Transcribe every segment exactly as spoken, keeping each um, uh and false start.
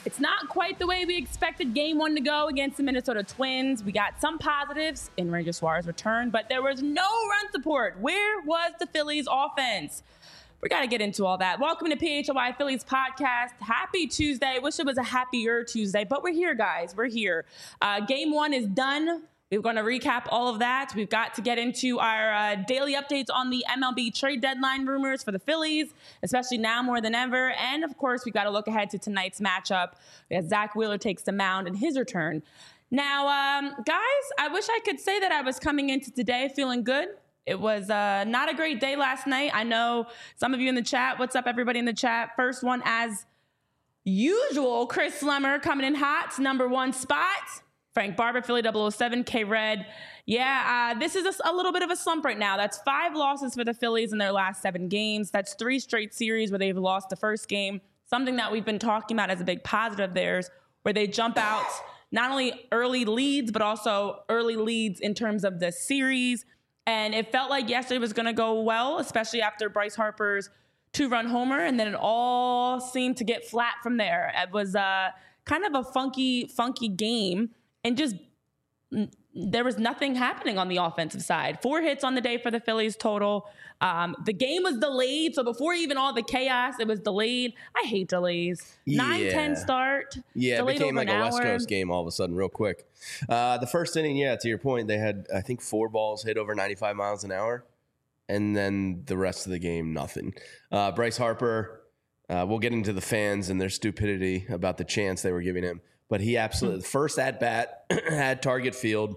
It's not quite the way we expected game one to go against the Minnesota Twins. We got some positives in Ranger Suarez return, but there was no run support. Where was the Phillies offense? We got to get into all that. Welcome to P H L Y Phillies podcast. Happy Tuesday. Wish it was a happier Tuesday, but we're here, guys. We're here. Uh, game one is done. We're going to recap all of that. We've got to get into our uh, daily updates on the M L B trade deadline rumors for the Phillies, especially now more than ever. And, of course, we've got to look ahead to tonight's matchup as Zach Wheeler takes the mound in his return. Now, um, guys, I wish I could say that I was coming into today feeling good. It was uh, not a great day last night. I know some of you in the chat. What's up, everybody in the chat? First one, as usual, Chris Slemmer coming in hot, number one spot. Frank Barber, Philly double oh seven, K-Red. Yeah, uh, this is a, a little bit of a slump right now. That's five losses for the Phillies in their last seven games. That's three straight series where they've lost the first game, something that we've been talking about as a big positive of theirs, where they jump out not only early leads, but also early leads in terms of the series. And it felt like yesterday was going to go well, especially after Bryce Harper's two-run homer, and then it all seemed to get flat from there. It was uh, kind of a funky, funky game, and just there was nothing happening on the offensive side. Four hits on the day for the Phillies total. Um, the game was delayed, so before even all the chaos, it was delayed. I hate delays. nine ten Yeah. start. Yeah, it became like a West hour. Coast game all of a sudden, real quick. Uh, the first inning, yeah, to your point, they had, I think, four balls hit over ninety-five miles an hour. And then the rest of the game, nothing. Uh, Bryce Harper, uh, we'll get into the fans and their stupidity about the chance they were giving him. But he absolutely, the first at-bat at Target Field,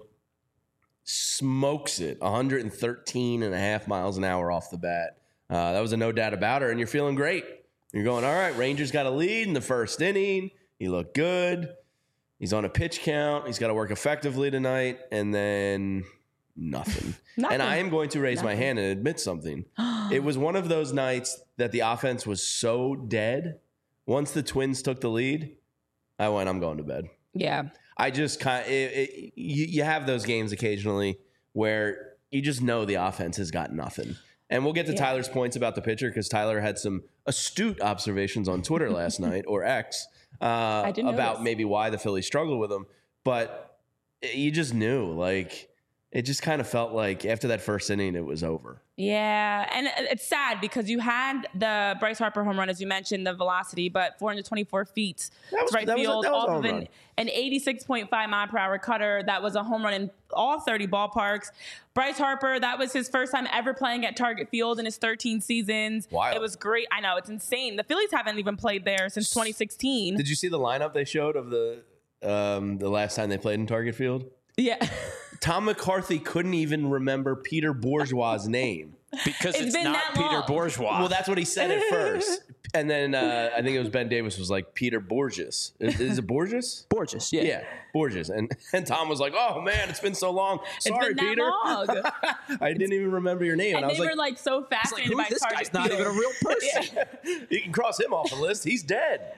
smokes it, one thirteen and a half miles an hour off the bat. Uh, that was a no doubt about her, and you're feeling great. You're going, all right, Rangers got a lead in the first inning. He looked good. He's on a pitch count. He's got to work effectively tonight, and then nothing. Nothing. And I am going to raise Nothing. my hand and admit something. It was one of those nights that the offense was so dead. Once the Twins took the lead, I went, I'm going to bed. Yeah. I just kind of, it, it, you, you have those games occasionally where you just know the offense has got nothing. And we'll get to Yeah. Tyler's points about the pitcher because Tyler had some astute observations on Twitter last night, or X, uh, did about notice. maybe why the Phillies struggled with him. But you just knew, like, it just kind of felt like after that first inning, it was over. Yeah, and it's sad because you had the Bryce Harper home run, as you mentioned, the velocity, but four hundred twenty-four feet That was- to right that was a- field that was a off home of an, run. an eighty-six point five mile per hour cutter. That was a home run in all thirty ballparks. Bryce Harper, that was his first time ever playing at Target Field in his thirteen seasons. Wild. It was great. I know, it's insane. The Phillies haven't even played there since twenty sixteen. Did you see the lineup they showed of the um, the last time they played in Target Field? Yeah. Tom McCarthy couldn't even remember Peter Bourgeois' name. Because It's it's, been not that Peter long. Bourgeois. Well, that's what he said at first. And then uh, I think it was Ben Davis was like, Peter Borges. Is, is it Borges? Borges, yeah. Yeah, Borges. And and Tom was like, oh, man, it's been so long. Sorry, it's been Peter. that long. I didn't even remember your name. And I they was were like, like so It's like, fascinated who, by this Target guy's not Field. even a real person. you can cross him off the list. He's dead.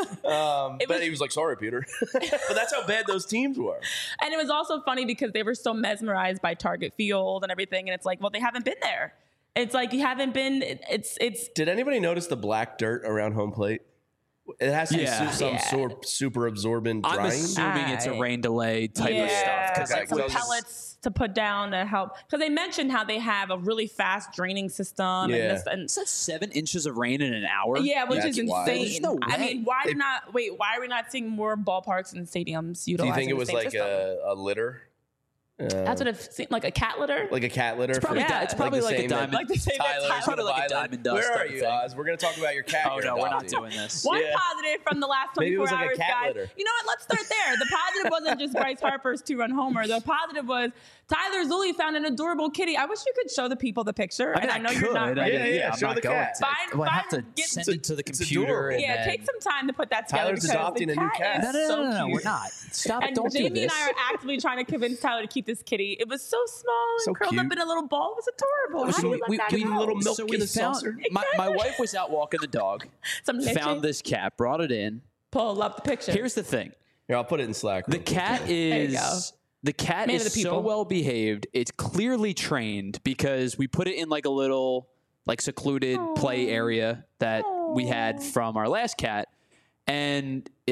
Um, It but was- he was like, sorry, Peter. But that's how bad those teams were. And it was also funny because they were so mesmerized by Target Field and everything. And it's like, well, they haven't been there. It's like you haven't been. It's it's. Did anybody notice the black dirt around home plate? It has to Yeah. be su- some Yeah. sort super absorbent I'm drying. assuming it's a I- rain delay type yeah, of stuff. Okay, Because like like, some those- pellets to put down to help. Because they mentioned how they have a really fast draining system. Yeah. And this, and is that seven inches of rain in an hour? yeah, which That's is wild. insane. There's no I way. mean, why They- do not wait? Why are we not seeing more ballparks and stadiums Do you utilizing think it the was same like system? a, a litter? Uh, That's what it seemed like, a cat litter. like a cat litter. It's probably, Yeah. di- it's probably the like, same a that- diamond. Like the same that Tyler's Tyler- Probably like a Violet. diamond dust Where are type of you, thing. Oz? We're going to talk about your cat. Oh, you're no, we're not adopting. doing this. One Yeah. positive from the last Maybe it twenty-four was like a hours, cat guys. litter. You know what? Let's start there. The positive wasn't just Bryce Harper's two-run homer. The positive was Tyler Zulli found an adorable kitty. I wish you could show the people the picture. I mean, and I I know could. you're not I ready. Yeah, mean, yeah, I'm show not the going cat. to. Find- Well, I have to find- get- send it to the It's computer. adorable. And Yeah, then, take some time to put that together. Tyler's because adopting the a new cat cat. is No, no, no, so no, no, cute. we're not. Stop it. And Don't Jamie do this. and I are actively trying to convince Tyler to keep this kitty. It was so small and So curled cute. up in a little ball. It was adorable. How So do you we- let we- that we go? little milk so in we a found, saucer. my, my wife was out walking the dog, Some leche. found this cat, brought it in. Pull up the picture. Here's the thing. Here, I'll put it in Slack. The real quick. cat you go. is the cat Man of is the people. so well behaved. It's clearly trained because we put it in like a little like secluded play area that we had from our last cat, and it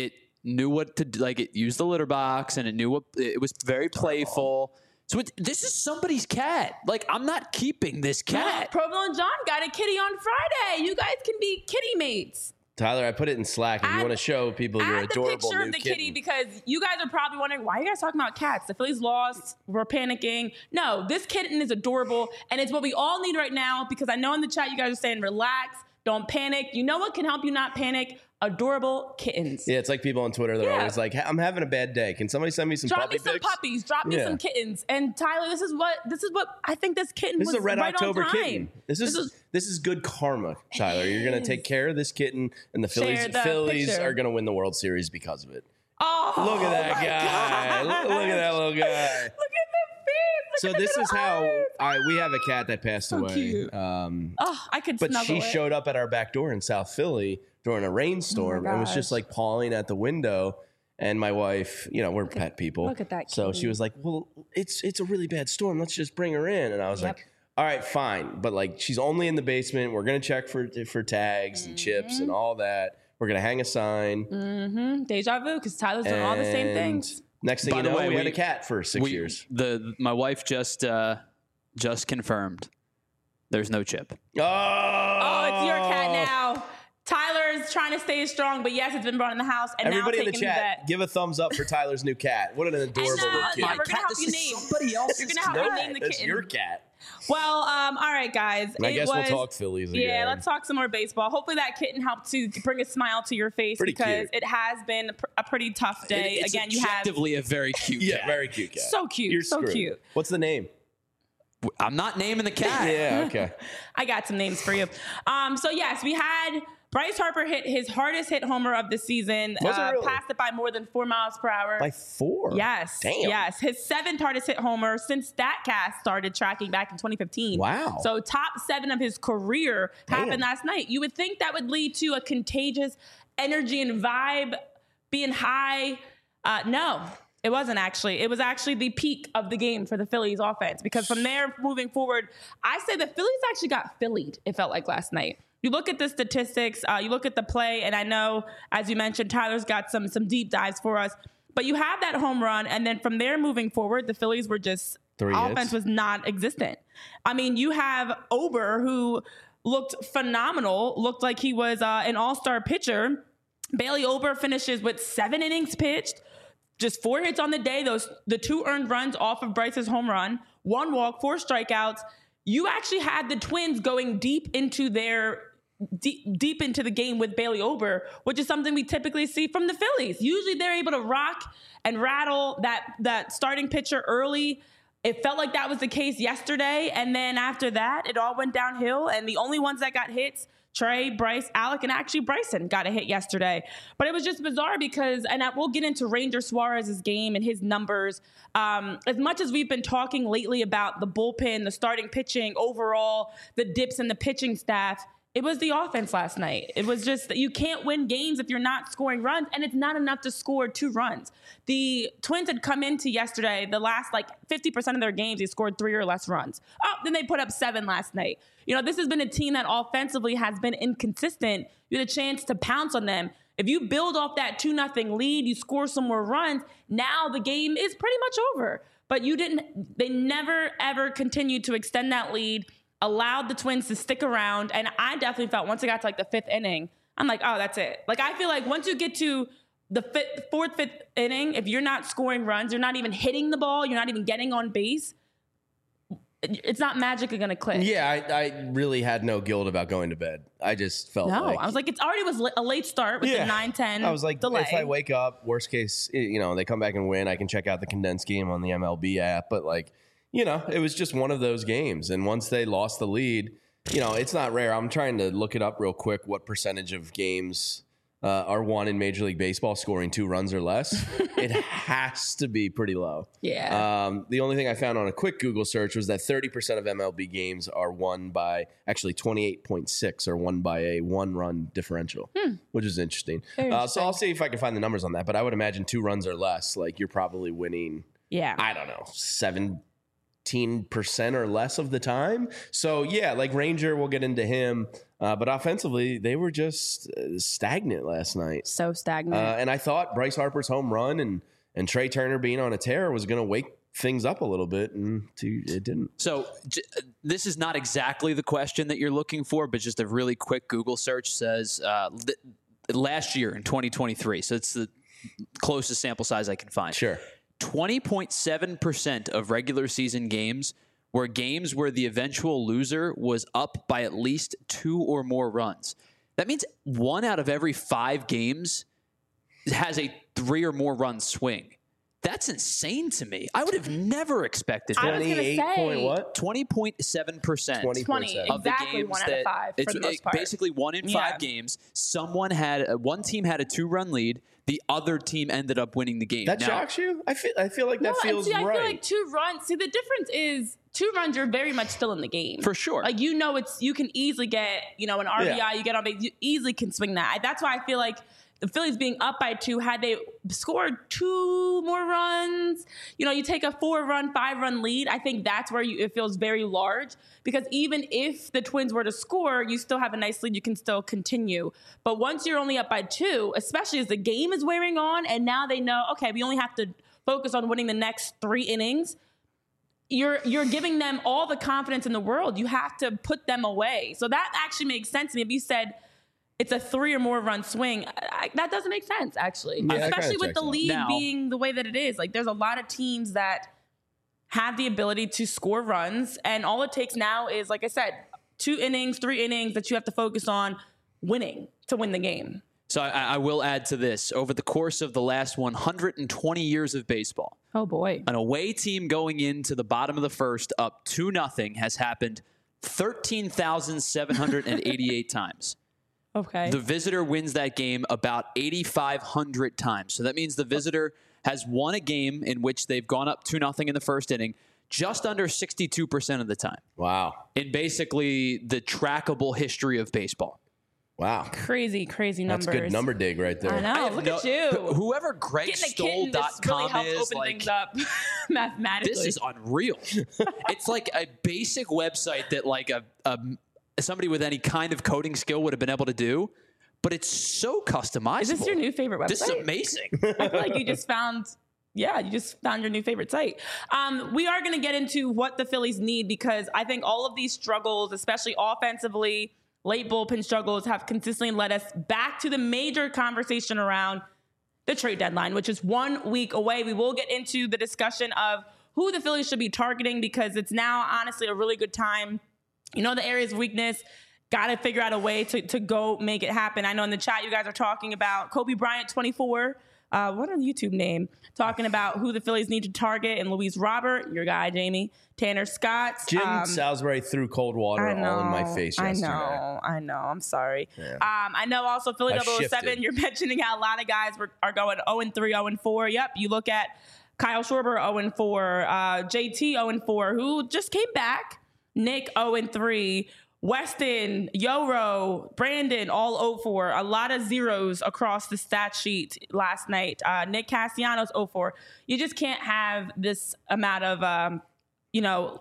knew what to do. Like it used the litter box and it knew what it was very playful. So it, this is somebody's cat. Like I'm not keeping this cat. Provolone John got a kitty on Friday. You guys can be kitty mates. Tyler, I put it in Slack if you Add- want to show people your Add the adorable picture new of the kitten. kitty because you guys are probably wondering why are you guys talking about cats? The Phillies lost. We're panicking. No, this kitten is adorable, and it's what we all need right now. Because I know in the chat you guys are saying relax, don't panic. You know what can help you not panic? Adorable kittens. Yeah, it's like people on Twitter. They're Yeah. always like, "I'm having a bad day. Can somebody send me some Drop puppy me some pics?" puppies. Drop me Yeah. some kittens. And Tyler, this is what this is what I think this kitten This was is a Red right October on time. kitten. This is, This is- this is good karma, Tyler. You're gonna is. take care of this kitten, and the Share Phillies the Phillies picture. are gonna win the World Series because of it. Oh, Look at that my guy! gosh. Look, look at that little guy. Look at the face. Look So at the this is little how eyes. I we have a cat that passed So away. cute. Um, Oh, I could but snuggle she it. showed up at our back door in South Philly during a rainstorm Oh my and was just gosh. like pawing at the window. And my wife, you know, we're pet people. look at that So kitty. she was like, "Well, it's it's a really bad storm. Let's just bring her in." And I was Yep. like, "All right, fine, but like she's only in the basement. We're gonna check for for tags and chips Mm-hmm. and all that. We're gonna hang a sign." Mm-hmm. Deja vu, because Tyler's doing all the same And things. Next thing By you the know, way, we, had we- a cat for six We- years. The my wife just uh, just confirmed there's no chip. Oh, Oh, it's your cat now. Tyler's trying to stay strong, but yes, it's been brought in the house and Everybody now in the taken to chat, vet. give a thumbs up for Tyler's new cat. What an adorable And, uh, little yeah, kid. we're gonna help you name. somebody else's You're gonna help me name the That's kitten. your cat. Well, um, all right, guys. And I it guess was, we'll talk Phillies again. Yeah, let's talk some more baseball. Hopefully, that kitten helped to bring a smile to your face Pretty because cute. it has been a, pr- a pretty tough day. It's Again, you have objectively a very cute Yeah, cat. very cute cat. so cute, You're so screwed. cute. What's the name? I'm not naming the cat. Yeah, okay. I got some names for you. Um, so yes, we had Bryce Harper hit his hardest hit homer of the season. Was it uh, really? Passed it by more than four miles per hour. By four. Yes. Damn. Yes. His seventh hardest hit homer since StatCast started tracking back in twenty fifteen. Wow. So top seven of his career Damn. happened last night. You would think that would lead to a contagious energy and vibe being high. Uh, no. It wasn't actually. It was actually the peak of the game for the Phillies offense because from there moving forward, I say the Phillies actually got Phillied, it felt like last night. You look at the statistics, uh, you look at the play, and I know, as you mentioned, Tyler's got some some deep dives for us. But you have that home run, and then from there moving forward, the Phillies were just Three offense hits. was non-existent. I mean, you have Ober, who looked phenomenal, looked like he was uh, an all-star pitcher. Bailey Ober finishes with seven innings pitched, just four hits on the day. Those the two earned runs off of Bryce's home run, one walk, four strikeouts. You actually had the Twins going deep into their deep, deep into the game with Bailey Ober, which is something we typically see from the Phillies. Usually they're able to rock and rattle that that starting pitcher early. It felt like that was the case yesterday, and then after that, it all went downhill. And the only ones that got hits, Trey, Bryce, Alec, and actually Bryson got a hit yesterday. But it was just bizarre because, and I, we'll get into Ranger Suarez's game and his numbers. Um, as much as we've been talking lately about the bullpen, the starting pitching, overall, the dips in the pitching staff, it was the offense last night. It was just that you can't win games if you're not scoring runs, and it's not enough to score two runs. The Twins had come into yesterday, the last like fifty percent of their games, they scored three or less runs. Oh, then they put up seven last night. You know, this has been a team that offensively has been inconsistent. You had a chance to pounce on them. If you build off that two nothing lead, you score some more runs, now the game is pretty much over. But you didn't, they never ever continued to extend that lead, allowed the Twins to stick around. And I definitely felt once it got to like the fifth inning, I'm like, oh, that's it. Like, I feel like once you get to the fifth, fourth, fifth inning, if you're not scoring runs, you're not even hitting the ball, you're not even getting on base, it's not magically going to click. Yeah, I, I really had no guilt about going to bed. I just felt No, like I was like, it's already was a late start with the nine ten I was like, delay. if I wake up, worst case, you know, they come back and win, I can check out the condensed game on the M L B app. But like, you know, it was just one of those games. And once they lost the lead, you know, it's not rare. I'm trying to look it up real quick. What percentage of games uh, are won in Major League Baseball scoring two runs or less? It has to be pretty low. Yeah. Um, the only thing I found on a quick Google search was that thirty percent of M L B games are won by, actually twenty-eight point six are won by a one-run differential, Hmm. which is interesting. Very Uh, so I'll interesting. see if I can find the numbers on that. But I would imagine two runs or less, like you're probably winning, Yeah. I don't know, seven, fifteen percent or less of the time. So yeah, like Ranger, we'll get into him. Uh, but offensively, they were just uh, stagnant last night. So stagnant. Uh, and I thought Bryce Harper's home run and, and Trey Turner being on a tear was going to wake things up a little bit, and to, it didn't. So j- this is not exactly the question that you're looking for, but just a really quick Google search says uh, th- last year in twenty twenty-three. So it's the closest sample size I can find. Sure. twenty point seven percent of regular season games were games where the eventual loser was up by at least two or more runs. That means one out of every five games has a three or more run swing. That's insane to me. I would have never expected I that. was gonna twenty-eight say- point what? twenty point seven percent. twenty twenty, point seven. Of the exactly games one out that of five it's for the most it- part. basically one in Yeah. five games. Someone had uh, one team had a two-run lead. The other team ended up winning the game. That Now, shocks you? I feel I feel like that No, and feels see, I right. feel like two runs. See, the difference is two runs. You're very much still in the game For sure. Like you know, it's you can easily get you know an R B I. Yeah. You get on base. You easily can swing that. That's why I feel like the Phillies being up by two, had they scored two more runs, you know, you take a four-run, five-run lead. I think that's where you, it feels very large because even if the Twins were to score, you still have a nice lead. You can still continue. But once you're only up by two, especially as the game is wearing on, and now they know, okay, we only have to focus on winning the next three innings. You're you're giving them all the confidence in the world. You have to put them away. So that actually makes sense to me. If you said it's a three or more run swing, I, that doesn't make sense, actually. Yeah, that Especially kinda with checks the out. league Now- being the way that it is. Like, there's a lot of teams that have the ability to score runs, and all it takes now is, like I said, two innings, three innings that you have to focus on winning to win the game. So I, I will add to this. Over the course of the last one hundred twenty years of baseball, Oh, boy. an away team going into the bottom of the first up two nothing has happened thirteen thousand seven hundred eighty-eight times. Okay. The visitor wins that game about eighty-five hundred times. So that means the visitor has won a game in which they've gone up two nothing in the first inning just under sixty-two percent of the time Wow. in basically the trackable history of baseball. Wow. crazy, crazy numbers. That's good number dig right there. I know. I have Look no- at you. wh- Whoever Greg Getting a Stoll kitten dot just really com helped is, open like, things up mathematically. this is unreal. It's like a basic website that like a, a somebody with any kind of coding skill would have been able to do, but it's so customizable. Is this your new favorite website? This is amazing. I feel like you just found, yeah, you just found your new favorite site. Um, we are going to get into what the Phillies need because I think all of these struggles, especially offensively, late bullpen struggles, have consistently led us back to the major conversation around the trade deadline, which is one week away. We will get into the discussion of who the Phillies should be targeting because it's now honestly a really good time. You know, the areas of weakness, got to figure out a way to, to go make it happen. I know in the chat you guys are talking about Kobe Bryant twenty-four. Uh, what is the YouTube name? Talking about who the Phillies need to target, and Luis Robert, your guy, Jamie, Tanner Scott. Jim um, Salisbury threw cold water I know, all in my face yesterday. I know, I know. I'm sorry. Yeah. Um, I know also Philly I double oh seven, shifted. you're mentioning how a lot of guys were, are going oh and three, oh and four. Yep, you look at Kyle Schwarber oh and four, uh, J T oh and four, who just came back. Nick oh and three. Weston, Yoro, Brandon, all oh four. A lot of zeros across the stat sheet last night. Uh, Nick Castellanos, oh four. You just can't have this amount of, um, you know,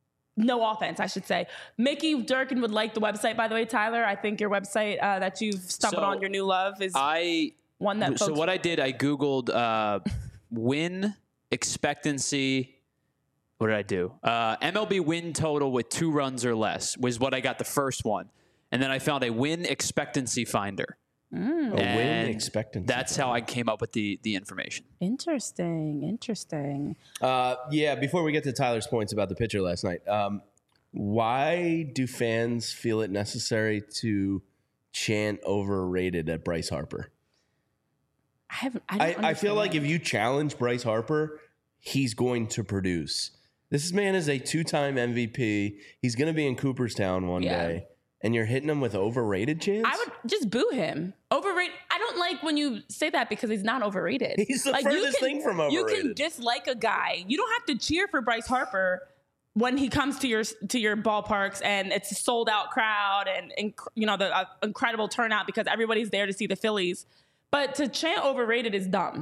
no offense, I should say. Mickey Durkin would like the website, by the way, Tyler. I think your website uh, that you've stumbled So, on, your new love, is I one that so folks... what I did, I Googled uh, win expectancy. What did I do? Uh, M L B win total with two runs or less was what I got the first one. And then I found a win expectancy finder. A win And expectancy. That's how I came up with the, the information. Interesting, interesting. Uh, yeah, before we get to Tyler's points about the pitcher last night, um, why do fans feel it necessary to chant overrated at Bryce Harper? I haven't. I, I, don't I feel like if understand. you challenge Bryce Harper, he's going to produce. This man is a two-time M V P. He's going to be in Cooperstown one Yeah. day, and you're hitting him with overrated chants? I would just boo him. Overrated. I don't like when you say that because he's not overrated. He's the like, you furthest can- thing from You can overrated. dislike a guy. You don't have to cheer for Bryce Harper when he comes to your to your ballparks and it's a sold out crowd and, and you know the uh, incredible turnout because everybody's there to see the Phillies. But to chant overrated is dumb.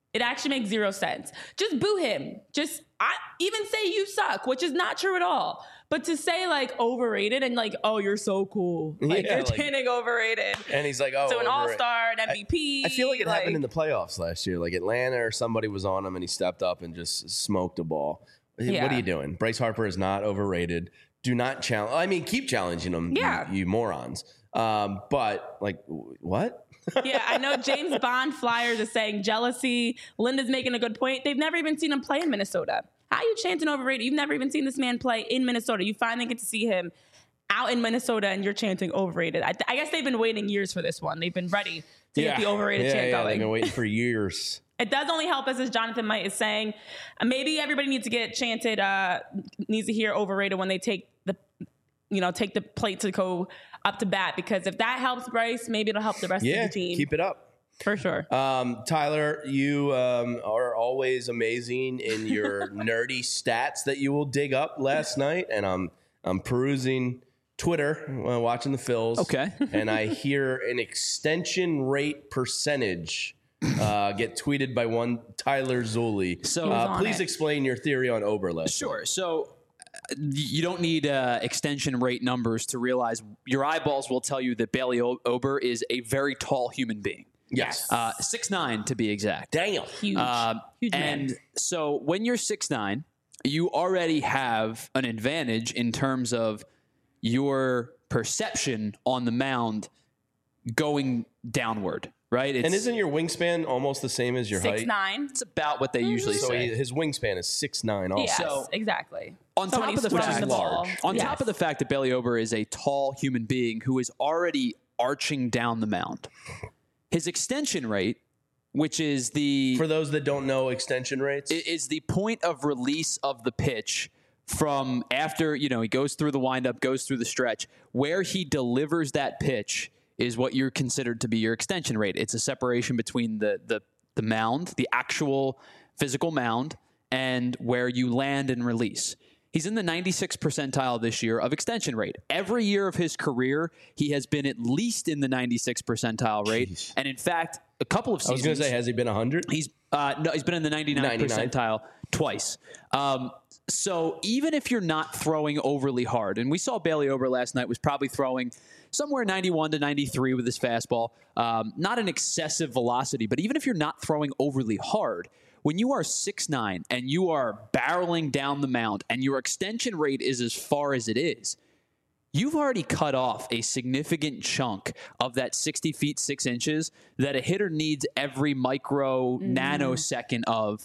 It actually makes zero sense. Just boo him. Just I even say you suck, which is not true at all. But to say like overrated and like, oh, you're so cool. Like Yeah, you're like- chanting overrated. And he's like, oh, So an overrated. all-star, an M V P. I feel like it happened in the playoffs last year. Like Atlanta or somebody was on him and he stepped up and just smoked a ball. Yeah. What are you doing? Bryce Harper is not overrated. Do not challenge. I mean, keep challenging him, Yeah. you, you morons. Um, but like, w- what? Yeah, I know James Bond Flyers is saying jealousy. Linda's making a good point. They've never even seen him play in Minnesota. How are you chanting overrated? You've never even seen this man play in Minnesota. You finally get to see him out in Minnesota and you're chanting overrated. I, th- I guess they've been waiting years for this one. They've been ready to get the overrated yeah, chant yeah, going. They've been waiting for years. It does only help us, as Jonathan Might is saying. Uh, maybe everybody needs to get chanted, uh, needs to hear overrated when they take the, you know, take the plate to go up to bat. Because if that helps Bryce, maybe it'll help the rest Yeah, of the team. keep it up. For sure. Um, Tyler, you um, are always amazing in your nerdy stats that you will dig up last night, and I'm I'm perusing Twitter, uh, watching the Phils. Okay. And I hear an extension rate percentage uh, get tweeted by one Tyler Zulli. So- He was uh, on please it. explain your theory on Ober last Sure. So uh, you don't need uh, extension rate numbers to realize your eyeballs will tell you that Bailey O- Ober is a very tall human being. Yes. Uh, six nine to be exact. Damn. Huge. Um, Huge man. and so when you're six nine, you already have an advantage in terms of your perception on the mound going downward, right? It's, And isn't your wingspan almost the same as your Six height? nine. it's about what they usually So say. he, his wingspan is six nine. Also, Yes, So- exactly. On So top when of the he's fact, swinging the ball, on yes. top of the fact that Bailey Ober is a tall human being who is already arching down the mound, his extension rate, which is the for those that don't know extension rates, i- is the point of release of the pitch from after, you know, he goes through the windup, goes through the stretch, where he delivers that pitch is what you're considered to be your extension rate. It's a separation between the the the mound, the actual physical mound, and where you land and release. He's in the ninety-sixth percentile this year of extension rate. Every year of his career, he has been at least in the ninety-sixth percentile rate. Jeez. And in fact, a couple of I was seasons. going to say, has he been one hundred? He's uh, no, he's been in the ninety-ninth ninety-nine. percentile twice. Um, so even if you're not throwing overly hard, and we saw Bailey Ober last night was probably throwing somewhere ninety-one to ninety-three with his fastball, um, not an excessive velocity, but even if you're not throwing overly hard, when you are six nine and you are barreling down the mound and your extension rate is as far as it is, you've already cut off a significant chunk of that sixty feet, six inches that a hitter needs every micro nanosecond of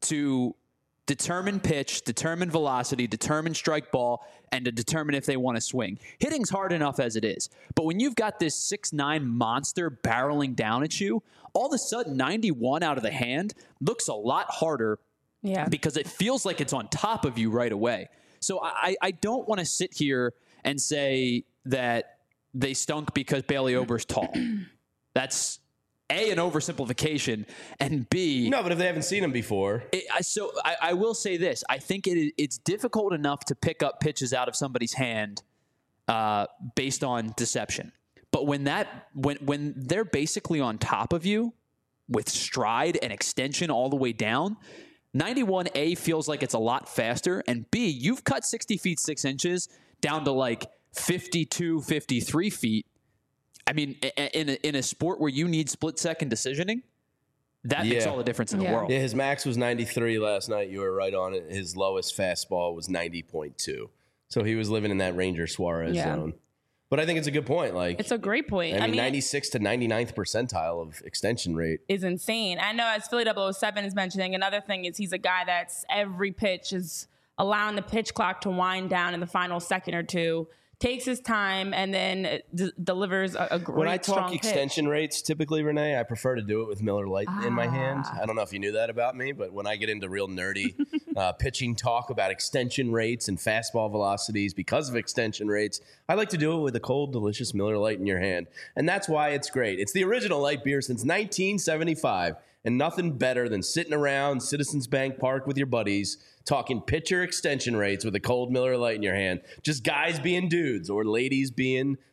to determine pitch, determine velocity, determine strike ball, and to determine if they want to swing. Hitting's hard enough as it is. But when you've got this six nine monster barreling down at you, all of a sudden ninety-one out of the hand looks a lot harder Yeah. because it feels like it's on top of you right away. So I, I don't want to sit here and say that they stunk because Bailey Ober's tall. That's A, an oversimplification, and B, No, but if they haven't seen him before, it, I, so I, I will say this. I think it, it's difficult enough to pick up pitches out of somebody's hand uh, based on deception. But when that when when they're basically on top of you with stride and extension all the way down, ninety-one A feels like it's a lot faster, and B, you've cut sixty feet six inches down to like fifty-two, fifty-three feet. I mean, i- i- in a, in a sport where you need split second decisioning, that makes Yeah. all the difference in Yeah. the world. yeah, his max was ninety-three last night. You were right on it. His lowest fastball was ninety point two. So he was living in that Ranger Suarez Yeah. zone. But I think it's a good point. Like, It's a great point. I mean, I mean, ninety-six to ninety-ninth percentile of extension rate. is insane. I know, as Philly double oh seven is mentioning, another thing is he's a guy that's every pitch is allowing the pitch clock to wind down in the final second or two, takes his time, and then d- delivers a, a great When I talk strong extension pitch. rates, typically, Renee, I prefer to do it with Miller Lite in my hand. Ah. I don't know if you knew that about me, but when I get into real nerdy uh, pitching talk about extension rates and fastball velocities because of extension rates, I like to do it with a cold, delicious Miller Lite in your hand. And that's why it's great. It's the original light beer since nineteen seventy-five, and nothing better than sitting around Citizens Bank Park with your buddies talking pitcher extension rates with a cold Miller Lite in your hand. Just guys being dudes or ladies being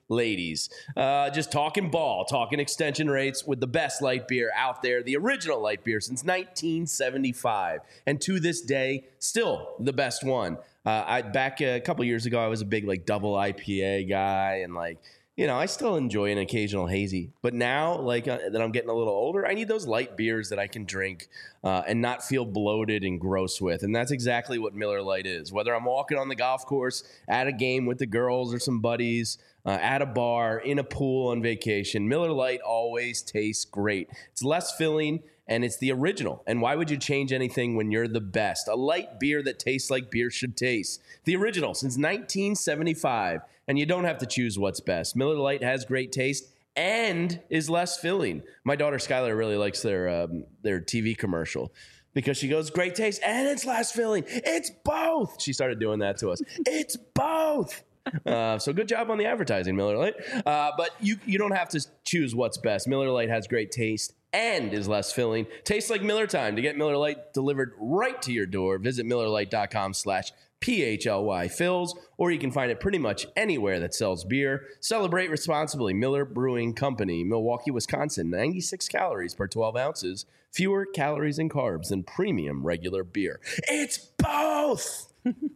ladies. Uh, just talking ball, talking extension rates with the best light beer out there, the original light beer since nineteen seventy-five. And to this day, still the best one. Uh, I back a couple years ago, I was a big like double I P A guy, and like, you know, I still enjoy an occasional hazy. But now, like uh, that I'm getting a little older, I need those light beers that I can drink uh, and not feel bloated and gross with. And that's exactly what Miller Lite is. Whether I'm walking on the golf course, at a game with the girls or some buddies, uh, at a bar, in a pool on vacation, Miller Lite always tastes great. It's less filling, and it's the original. And why would you change anything when you're the best? A light beer that tastes like beer should taste. The original since nineteen seventy-five. And you don't have to choose what's best. Miller Lite has great taste and is less filling. My daughter Skylar really likes their um, their T V commercial because she goes, great taste and it's less filling. It's both. She started doing that to us. It's both. Uh, so good job on the advertising, Miller Lite. Uh, but you you don't have to choose what's best. Miller Lite has great taste and is less filling. Tastes like Miller time. To get Miller Lite delivered right to your door, visit millerlite.com slash P H L Y Fills, or you can find it pretty much anywhere that sells beer. Celebrate responsibly. Miller Brewing Company, Milwaukee, Wisconsin. ninety-six calories per twelve ounces. Fewer calories and carbs than premium regular beer. It's both!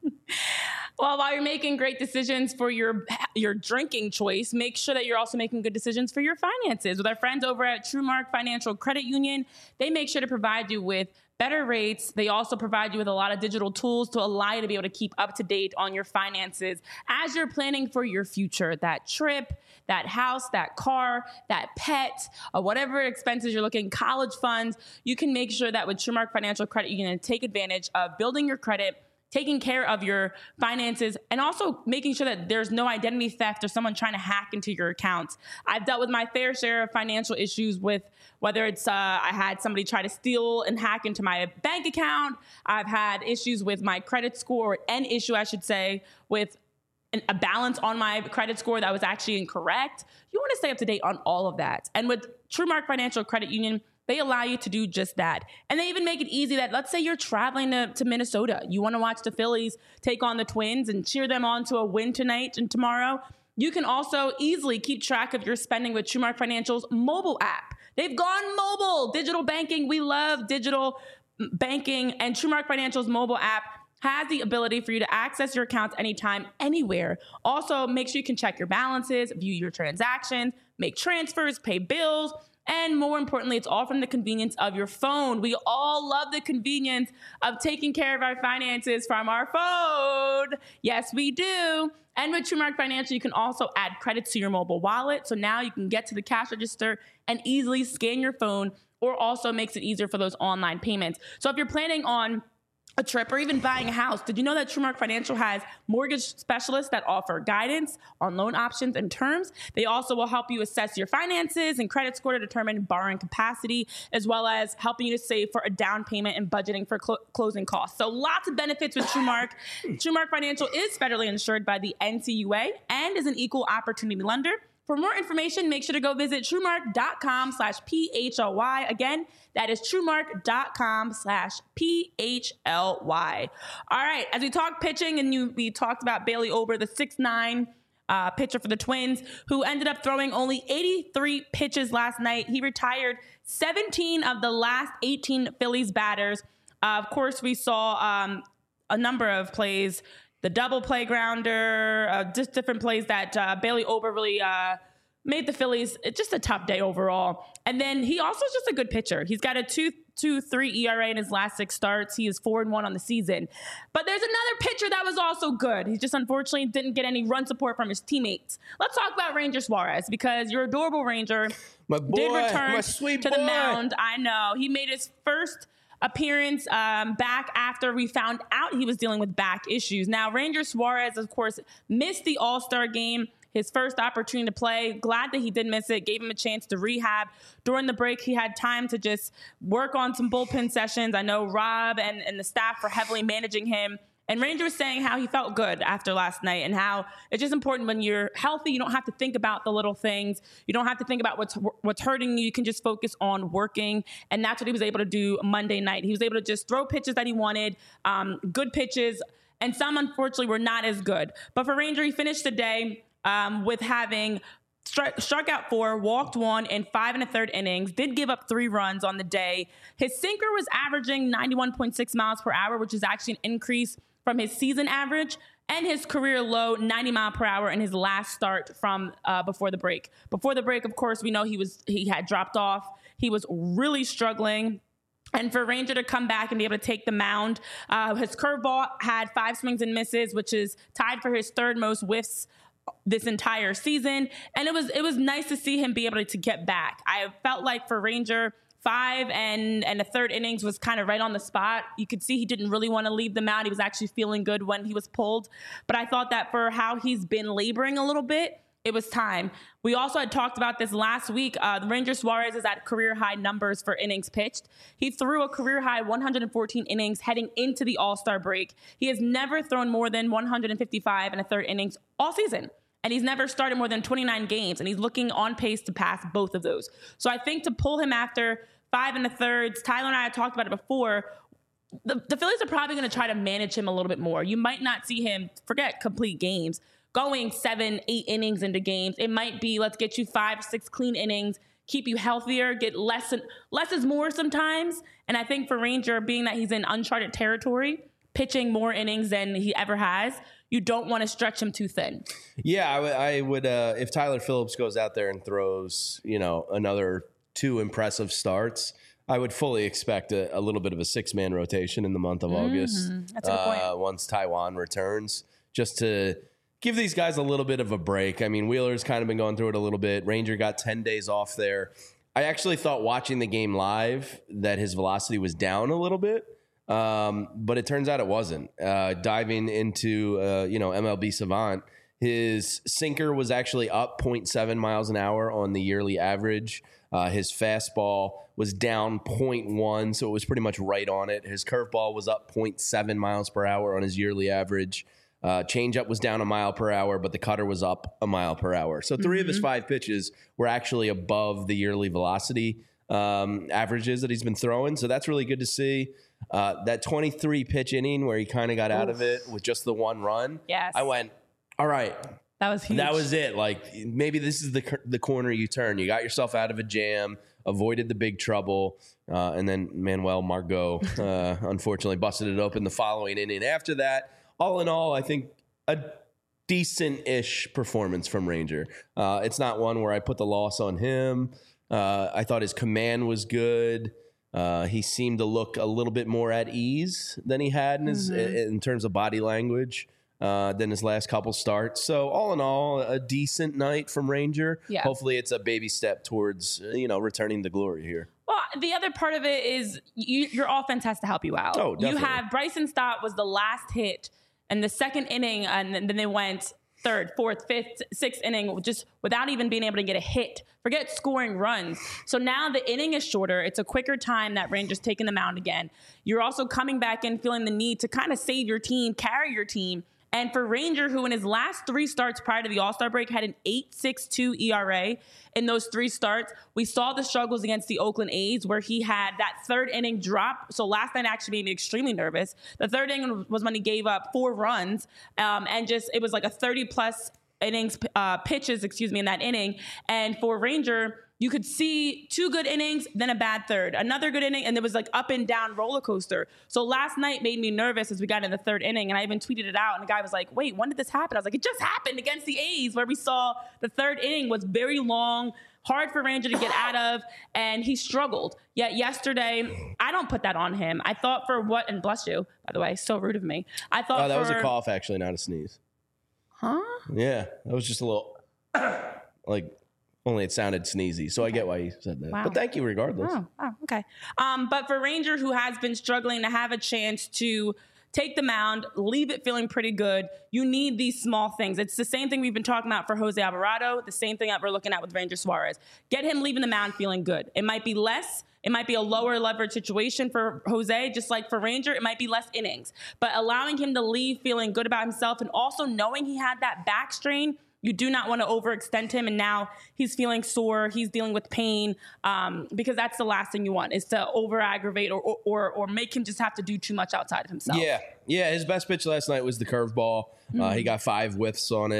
Well, while you're making great decisions for your your drinking choice, make sure that you're also making good decisions for your finances. With our friends over at TrueMark Financial Credit Union, they make sure to provide you with better rates. They also provide you with a lot of digital tools to allow you to be able to keep up to date on your finances as you're planning for your future. That trip, that house, that car, that pet, or whatever expenses you're looking, college funds, you can make sure that with TrueMark Financial Credit Union, take advantage of building your credit, taking care of your finances, and also making sure that there's no identity theft or someone trying to hack into your accounts. I've dealt with my fair share of financial issues with whether it's uh, I had somebody try to steal and hack into my bank account. I've had issues with my credit score, an issue, I should say, with an, a balance on my credit score that was actually incorrect. You want to stay up to date on all of that. And with TrueMark Financial Credit Union, they allow you to do just that. And they even make it easy that, let's say you're traveling to, to Minnesota. You want to watch the Phillies take on the Twins and cheer them on to a win tonight and tomorrow. You can also easily keep track of your spending with TrueMark Financial's mobile app. They've gone mobile. Digital banking. We love digital banking. And TrueMark Financial's mobile app has the ability for you to access your accounts anytime, anywhere. Also, make sure you can check your balances, view your transactions, make transfers, pay bills. And more importantly, it's all from the convenience of your phone. We all love the convenience of taking care of our finances from our phone. Yes, we do. And with TrueMark Financial, you can also add credits to your mobile wallet. So now you can get to the cash register and easily scan your phone, or also makes it easier for those online payments. So if you're planning on a trip or even buying a house, did you know that TrueMark Financial has mortgage specialists that offer guidance on loan options and terms? They also will help you assess your finances and credit score to determine borrowing capacity, as well as helping you to save for a down payment and budgeting for clo- closing costs. So lots of benefits with TrueMark. TrueMark Financial is federally insured by the N C U A and is an equal opportunity lender. For more information, make sure to go visit TrueMark.com slash P-H-L-Y. Again, that is TrueMark.com slash P-H-L-Y. All right, as we talk pitching, and you, we talked about Bailey Ober, the six nine uh, pitcher for the Twins, who ended up throwing only eighty-three pitches last night. He retired seventeen of the last eighteen Phillies batters. Uh, of course, we saw um, a number of plays, the double play grounder, uh, just different plays that uh, Bailey Ober really uh, made the Phillies just a tough day overall. And then he also is just a good pitcher. He's got a two two three E R A in his last six starts. He is four and one on the season. But there's another pitcher that was also good. He just unfortunately didn't get any run support from his teammates. Let's talk about Ranger Suarez, because your adorable Ranger my boy, did return my sweet to boy. the mound. I know. He made his first appearance um, back after we found out he was dealing with back issues. Now, Ranger Suarez, of course, missed the All-Star game, his first opportunity to play. Glad that he did miss it, gave him a chance to rehab. During the break, he had time to just work on some bullpen sessions. I know Rob and, and the staff were heavily managing him. And Ranger was saying how he felt good after last night, and how it's just important when you're healthy, you don't have to think about the little things. You don't have to think about what's what's hurting you. You can just focus on working. And that's what he was able to do Monday night. He was able to just throw pitches that he wanted, um, good pitches, and some, unfortunately, were not as good. But for Ranger, he finished the day um, with having struck, struck out four, walked one in five and a third innings, did give up three runs on the day. His sinker was averaging ninety-one point six miles per hour, which is actually an increase from his season average, and his career low ninety mile per hour in his last start from uh, before the break. Before the break, of course, we know he was he had dropped off. He was really struggling. And for Ranger to come back and be able to take the mound, uh, his curveball had five swings and misses, which is tied for his third most whiffs this entire season. And it was it was nice to see him be able to get back. I felt like for Ranger, five and and a third innings was kind of right on the spot. You could see he didn't really want to leave the mound. He was actually feeling good when he was pulled. But I thought that for how he's been laboring a little bit, it was time. We also had talked about this last week. Uh, Ranger Suarez is at career high numbers for innings pitched. He threw a career high one hundred fourteen innings heading into the All-Star break. He has never thrown more than one hundred fifty-five and a third innings all season. And he's never started more than twenty-nine games. And he's looking on pace to pass both of those. So I think to pull him after five and a thirds, Tyler and I had talked about it before, the, the Phillies are probably going to try to manage him a little bit more. You might not see him, forget complete games, going seven, eight innings into games. It might be, let's get you five, six clean innings, keep you healthier, get less and less is more sometimes. And I think for Ranger, being that he's in uncharted territory, pitching more innings than he ever has, you don't want to stretch him too thin. Yeah, I, w- I would, uh, if Tyler Phillips goes out there and throws, you know, another two impressive starts, I would fully expect a, a little bit of a six-man rotation in the month of mm-hmm. August. That's a good point. Uh, once Taijuan returns, just to give these guys a little bit of a break. I mean, Wheeler's kind of been going through it a little bit. Ranger got ten days off there. I actually thought watching the game live that his velocity was down a little bit, um, but it turns out it wasn't. Uh, diving into, uh, you know, M L B Savant, his sinker was actually up zero point seven miles an hour on the yearly average. Uh, his fastball was down zero point one, so it was pretty much right on it. His curveball was up zero point seven miles per hour on his yearly average. Uh, changeup was down a mile per hour, but the cutter was up a mile per hour. So three mm-hmm. of his five pitches were actually above the yearly velocity um, averages that he's been throwing. So that's really good to see. Uh, that twenty-three pitch inning where he kind of got Oof. out of it with just the one run. Yes. I went, all right. That was huge. That was it. Like, maybe this is the the corner you turn. You got yourself out of a jam, avoided the big trouble, uh, and then Manuel Margot uh, unfortunately busted it open the following inning. After that, all in all, I think a decent-ish performance from Ranger. Uh, it's not one where I put the loss on him. Uh, I thought his command was good. Uh, he seemed to look a little bit more at ease than he had in, his, mm-hmm. in terms of body language. Uh, than his last couple starts. So all in all, a decent night from Ranger. Yeah. Hopefully it's a baby step towards, you know, returning the glory here. Well, the other part of it is you, your offense has to help you out. Oh, definitely. You have Bryson Stott was the last hit in the second inning, and then they went third, fourth, fifth, sixth inning just without even being able to get a hit. Forget scoring runs. So now the inning is shorter. It's a quicker time that Ranger's taking the mound again. You're also coming back in feeling the need to kind of save your team, carry your team. And for Ranger, who in his last three starts prior to the All-Star break had an eight point six two E R A in those three starts, we saw the struggles against the Oakland A's where he had that third inning drop. So last night actually made me extremely nervous. The third inning was when he gave up four runs um, and just it was like a thirty-plus innings uh, pitches, excuse me, in that inning. And for Ranger, you could see two good innings, then a bad third, another good inning, and there was like up and down roller coaster. So last night made me nervous as we got in the third inning, and I even tweeted it out, and the guy was like, wait, when did this happen? I was like, it just happened against the A's, where we saw the third inning was very long, hard for Ranger to get out of, and he struggled. Yet yesterday, I don't put that on him. I thought for what, and bless you, by the way, so rude of me. I thought Oh, that for, was a cough, actually, not a sneeze. Huh? Yeah, that was just a little, like... Only it sounded sneezy, so okay. I get why you said that. Wow. But thank you regardless. Oh, oh okay. Um, but for Ranger, who has been struggling to have a chance to take the mound, leave it feeling pretty good, you need these small things. It's the same thing we've been talking about for Jose Alvarado, the same thing that we're looking at with Ranger Suarez. Get him leaving the mound feeling good. It might be less. It might be a lower leverage situation for Jose, just like for Ranger. It might be less innings. But allowing him to leave feeling good about himself and also knowing he had that back strain, you do not want to overextend him, and now he's feeling sore. He's dealing with pain um, because that's the last thing you want is to over-aggravate or, or or make him just have to do too much outside of himself. Yeah, yeah. His best pitch last night was the curveball. Mm-hmm. Uh, he got five whiffs on it.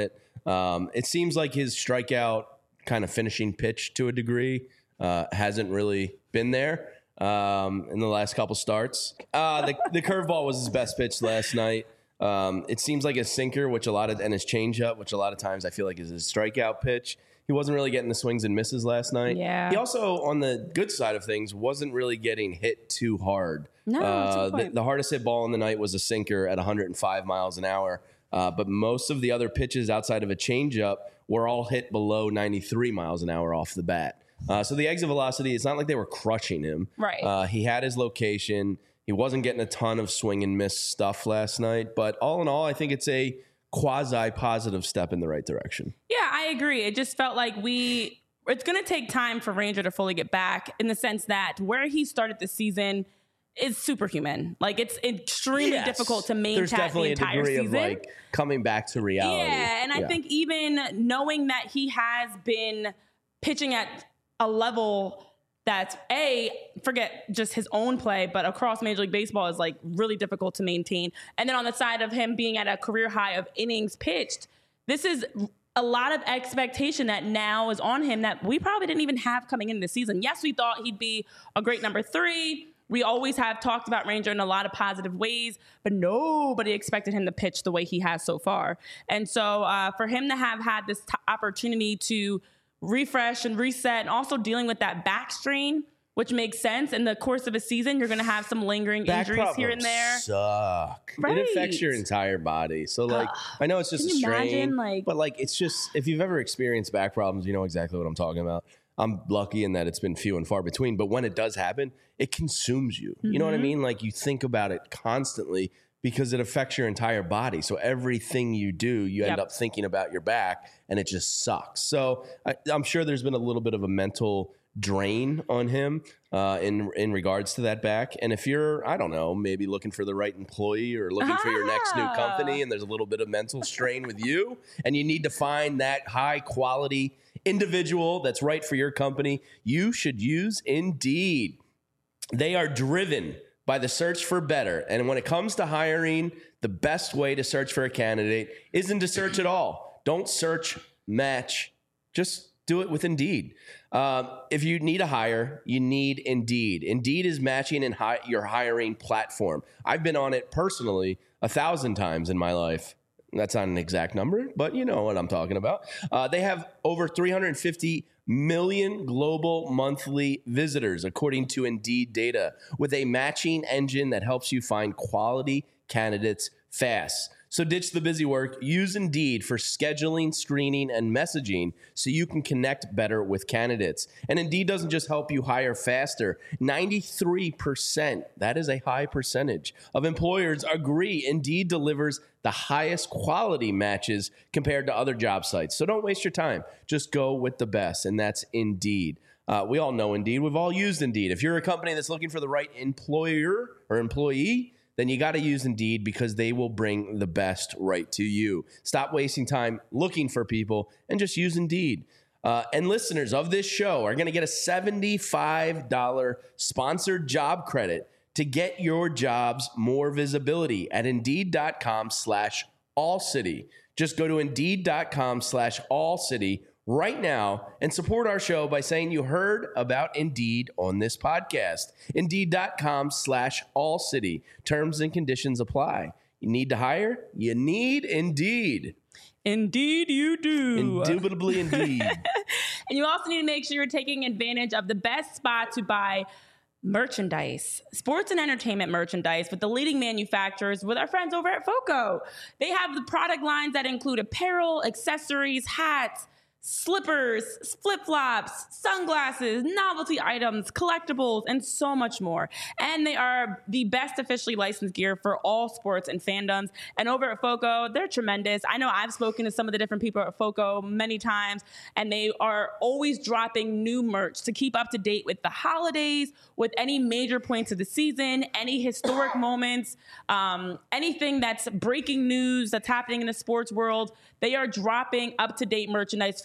Um, it seems like his strikeout kind of finishing pitch to a degree uh, hasn't really been there um, in the last couple starts. Uh, the the curveball was his best pitch last night. Um, it seems like his sinker, which a lot of, and his changeup, which a lot of times I feel like is his strikeout pitch. He wasn't really getting the swings and misses last night. Yeah. He also, on the good side of things, wasn't really getting hit too hard. No, that's a uh, good the, point. the hardest hit ball in the night was a sinker at one hundred five miles an hour. Uh, but most of the other pitches outside of a changeup were all hit below ninety-three miles an hour off the bat. Uh, so the exit velocity, it's not like they were crushing him. Right. Uh, he had his location. He wasn't getting a ton of swing and miss stuff last night. But all in all, I think it's a quasi-positive step in the right direction. Yeah, I agree. It just felt like we, it's going to take time for Ranger to fully get back in the sense that where he started the season is superhuman. Like, it's extremely Yes. difficult to maintain There's definitely the entire a degree season. of like coming back to reality. Yeah, and I think even knowing that he has been pitching at a level that's a forget just his own play, but across Major League Baseball is like really difficult to maintain. And then on the side of him being at a career high of innings pitched, this is a lot of expectation that now is on him that we probably didn't even have coming into the season. Yes, we thought he'd be a great number three. We always have talked about Ranger in a lot of positive ways, but nobody expected him to pitch the way he has so far. And so uh, for him to have had this t- opportunity to refresh and reset, and also dealing with that back strain, which makes sense. In the course of a season, you're going to have some lingering Back injuries here and there. Suck. Right. It affects your entire body. So like, Ugh. I know it's just Can a you strain, imagine, like- but like, it's just, if you've ever experienced back problems, you know exactly what I'm talking about. I'm lucky in that it's been few and far between, but when it does happen, it consumes you. You know what I mean? Like, you think about it constantly because it affects your entire body. So everything you do, you end Yep. up thinking about your back, and it just sucks. So I, I'm sure there's been a little bit of a mental drain on him uh, in in regards to that back. And if you're, I don't know, maybe looking for the right employee or looking for your next new Ah. company, and there's a little bit of mental strain with you, and you need to find that high quality individual that's right for your company, you should use Indeed. They are driven by the search for better. And when it comes to hiring, the best way to search for a candidate isn't to search at all. Don't search, match. Just do it with Indeed. Um, if you need a hire, you need Indeed. Indeed is matching and hi- your hiring platform. I've been on it personally a thousand times in my life. That's not an exact number, but you know what I'm talking about. Uh, they have over three hundred fifty million global monthly visitors, according to Indeed data, with a matching engine that helps you find quality candidates fast. So ditch the busy work. Use Indeed for scheduling, screening, and messaging so you can connect better with candidates. And Indeed doesn't just help you hire faster. ninety-three percent, that is a high percentage, of employers agree Indeed delivers the highest quality matches compared to other job sites. So don't waste your time. Just go with the best, and that's Indeed. Uh, we all know Indeed. We've all used Indeed. If you're a company that's looking for the right employer or employee, then you got to use Indeed because they will bring the best right to you. Stop wasting time looking for people and just use Indeed. Uh, and listeners of this show are going to get a seventy-five dollars sponsored job credit to get your jobs more visibility at Indeed.com slash Allcity. Just go to Indeed.com slash Allcity right now and support our show by saying you heard about Indeed on this podcast. Indeed.com slash Allcity. Terms and conditions apply. You need to hire? You need Indeed. Indeed you do. Indubitably indeed. And you also need to make sure you're taking advantage of the best spot to buy merchandise, sports and entertainment merchandise with the leading manufacturers, with our friends over at FOCO. They have the product lines that include apparel, accessories, hats, slippers, flip-flops, sunglasses, novelty items, collectibles, and so much more. And they are the best officially licensed gear for all sports and fandoms. And over at FOCO, they're tremendous. I know I've spoken to some of the different people at FOCO many times, and they are always dropping new merch to keep up to date with the holidays, with any major points of the season, any historic moments, um, anything that's breaking news that's happening in the sports world. They are dropping up-to-date merchandise for you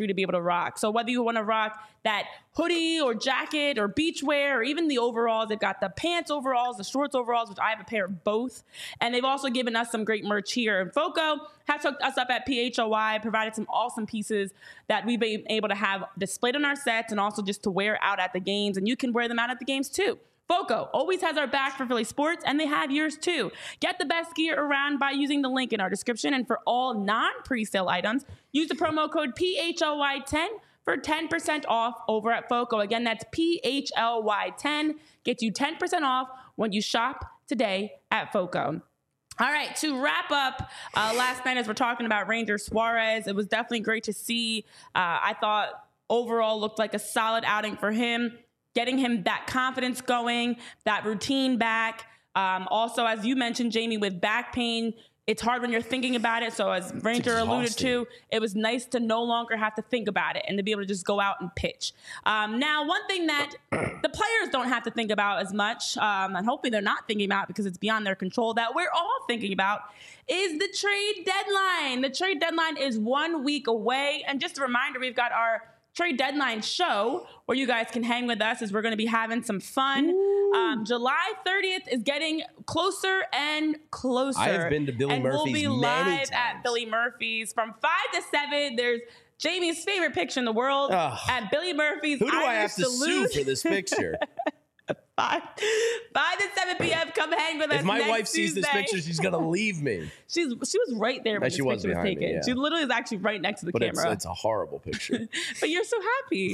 to be able to rock. So whether you want to rock that hoodie or jacket or beachwear or even the overalls, they've got the pants overalls, the shorts overalls, which I have a pair of both. And they've also given us some great merch here. And Foco has hooked us up at P H L Y, provided some awesome pieces that we've been able to have displayed on our sets and also just to wear out at the games. And you can wear them out at the games too. Foco always has our back for Philly sports, and they have yours too. Get the best gear around by using the link in our description. And for all non-presale items, use the promo code P H L Y ten for ten percent off over at Foco. Again, that's P H L Y ten. Get you ten percent off when you shop today at Foco. All right, to wrap up, uh, last night as we're talking about Ranger Suarez, it was definitely great to see. Uh, I thought overall looked like a solid outing for him. Getting him that confidence going, that routine back. Um, also, as you mentioned, Jamie, with back pain, it's hard when you're thinking about it. So as Ranger alluded to, it was nice to no longer have to think about it and to be able to just go out and pitch. Um, now, one thing that the players don't have to think about as much, um, and hopefully they're not thinking about because it's beyond their control, that we're all thinking about, is the trade deadline. The trade deadline is one week away. And just a reminder, we've got our trade deadline show where you guys can hang with us as we're going to be having some fun. Um, July thirtieth is getting closer and closer. I have been to Billy and Murphy's we'll be many live times. at Billy Murphy's from five to seven. There's Jamie's favorite picture in the world Ugh. at Billy Murphy's. Who do I have to Salute. sue for this picture? five, five to seven p.m. Come hang with us. If my next wife sees this Tuesday. picture, she's gonna leave me. She's she was right there when Yeah, this she was picture was behind me, taken. yeah. She literally is actually right next to the But it's, camera. it's a horrible picture. But you're so happy.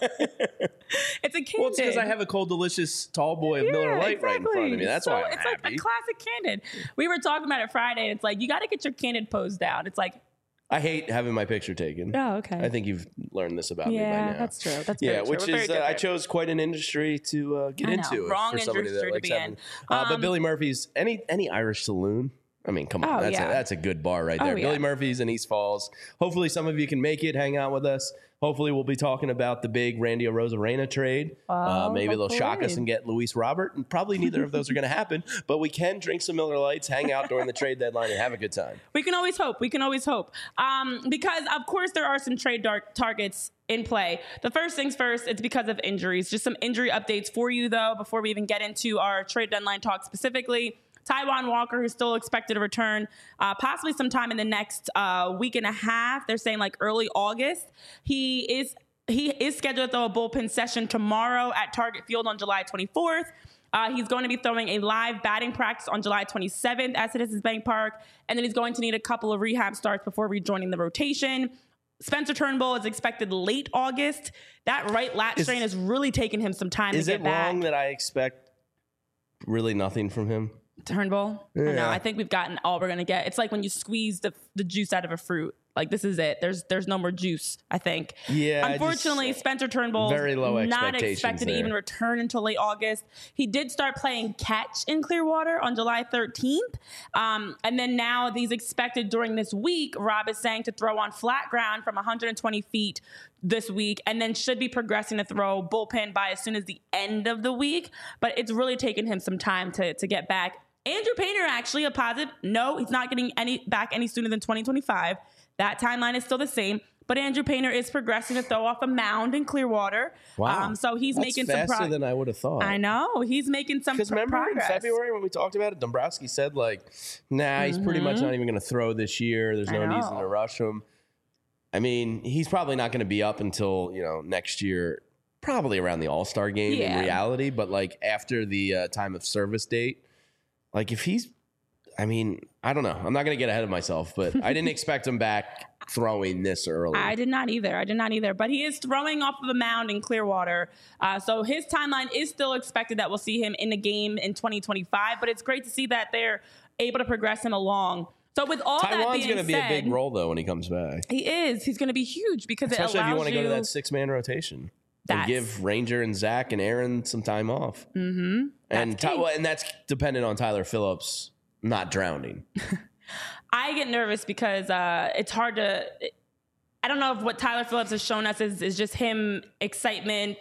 It's a candid. Well, it's because I have a cold, delicious, tall boy of Yeah, Miller Lite right in front of me. exactly. That's so why I'm it's happy. like a classic candid. We were talking about it Friday. And it's like you got to get your candid pose down. It's like, I hate having my picture taken. oh, okay. I think you've learned this about me by yeah, now. that's true. That's Yeah, very true. which We're very is uh, I different. chose quite an industry to uh, get I know. into. Wrong for somebody industry that to likes be having, in. Uh, but Um, Billy Murphy's, any any Irish saloon. I mean, come on, Oh, that's yeah. a, that's a good bar right there. Oh, Billy yeah. Murphy's in East Falls. Hopefully, some of you can make it, hang out with us. Hopefully, we'll be talking about the big Randy Arozarena trade. uh, Oh, maybe they'll shock us hopefully. and get Luis Robert, and probably neither of those are going to happen. But we can drink some Miller Lights, hang out during the trade deadline, and have a good time. We can always hope. We can always hope. Um, because, of course, there are some trade dark targets in play. The first things first, it's because of injuries. Just some injury updates for you, though, before we even get into our trade deadline talk specifically. Taijuan Walker, who's still expected to return uh, possibly sometime in the next uh, week and a half. They're saying like early August. He is he is scheduled to throw a bullpen session tomorrow at Target Field on July twenty-fourth. Uh, he's going to be throwing a live batting practice on July twenty-seventh at Citizens Bank Park, and then he's going to need a couple of rehab starts before rejoining the rotation. Spencer Turnbull is expected late August. That right lat Is- strain has really taken him some time Is to it get back. wrong that I expect really nothing from him? Turnbull? I know. Yeah. I think we've gotten all we're gonna get. It's like when you squeeze the the juice out of a fruit. Like this is it. There's there's no more juice, I think. Yeah, I just- Unfortunately, Spencer Turnbull very low not expectations expected to there. even return until late August. He did start playing catch in Clearwater on July thirteenth. Um, and then now he's expected during this week, Rob is saying, to throw on flat ground from one hundred twenty feet this week, and then should be progressing to throw bullpen by as soon as the end of the week. But it's really taken him some time to, to get back. Andrew Painter, actually, a positive. No, he's not getting any back any sooner than twenty twenty-five. That timeline is still the same. But Andrew Painter is progressing to throw off a mound in Clearwater. Wow. Um, so he's That's making some faster progress. than I would have thought. I know. He's making some Because pro- remember progress. in February when we talked about it, Dombrowski said like, nah, he's pretty much not even going to throw this year. There's no Mm-hmm. I reason know. to rush him. I mean, he's probably not going to be up until, you know, next year, probably around the All-Star game Yeah. in reality. But like after the uh, time of service date, like if he's, I mean, I don't know. I'm not going to get ahead of myself, but I didn't expect him back throwing this early. I did not either. I did not either. But he is throwing off of a mound in Clearwater. Uh, so his timeline is still expected that we'll see him in the game in twenty twenty-five. But it's great to see that they're able to progress him along. So with all that Taiwan's being going to be said, a big role, though, when he comes back. he is. He's going to be huge because Especially it if allows you want to you go to that six-man rotation. And That's- give Ranger and Zach and Aaron some time off. Mm-hmm. And, That's Ty- key. well, and that's dependent on Tyler Phillips not drowning. I get nervous because uh, it's hard to. I don't know if what Tyler Phillips has shown us is, is just him excitement,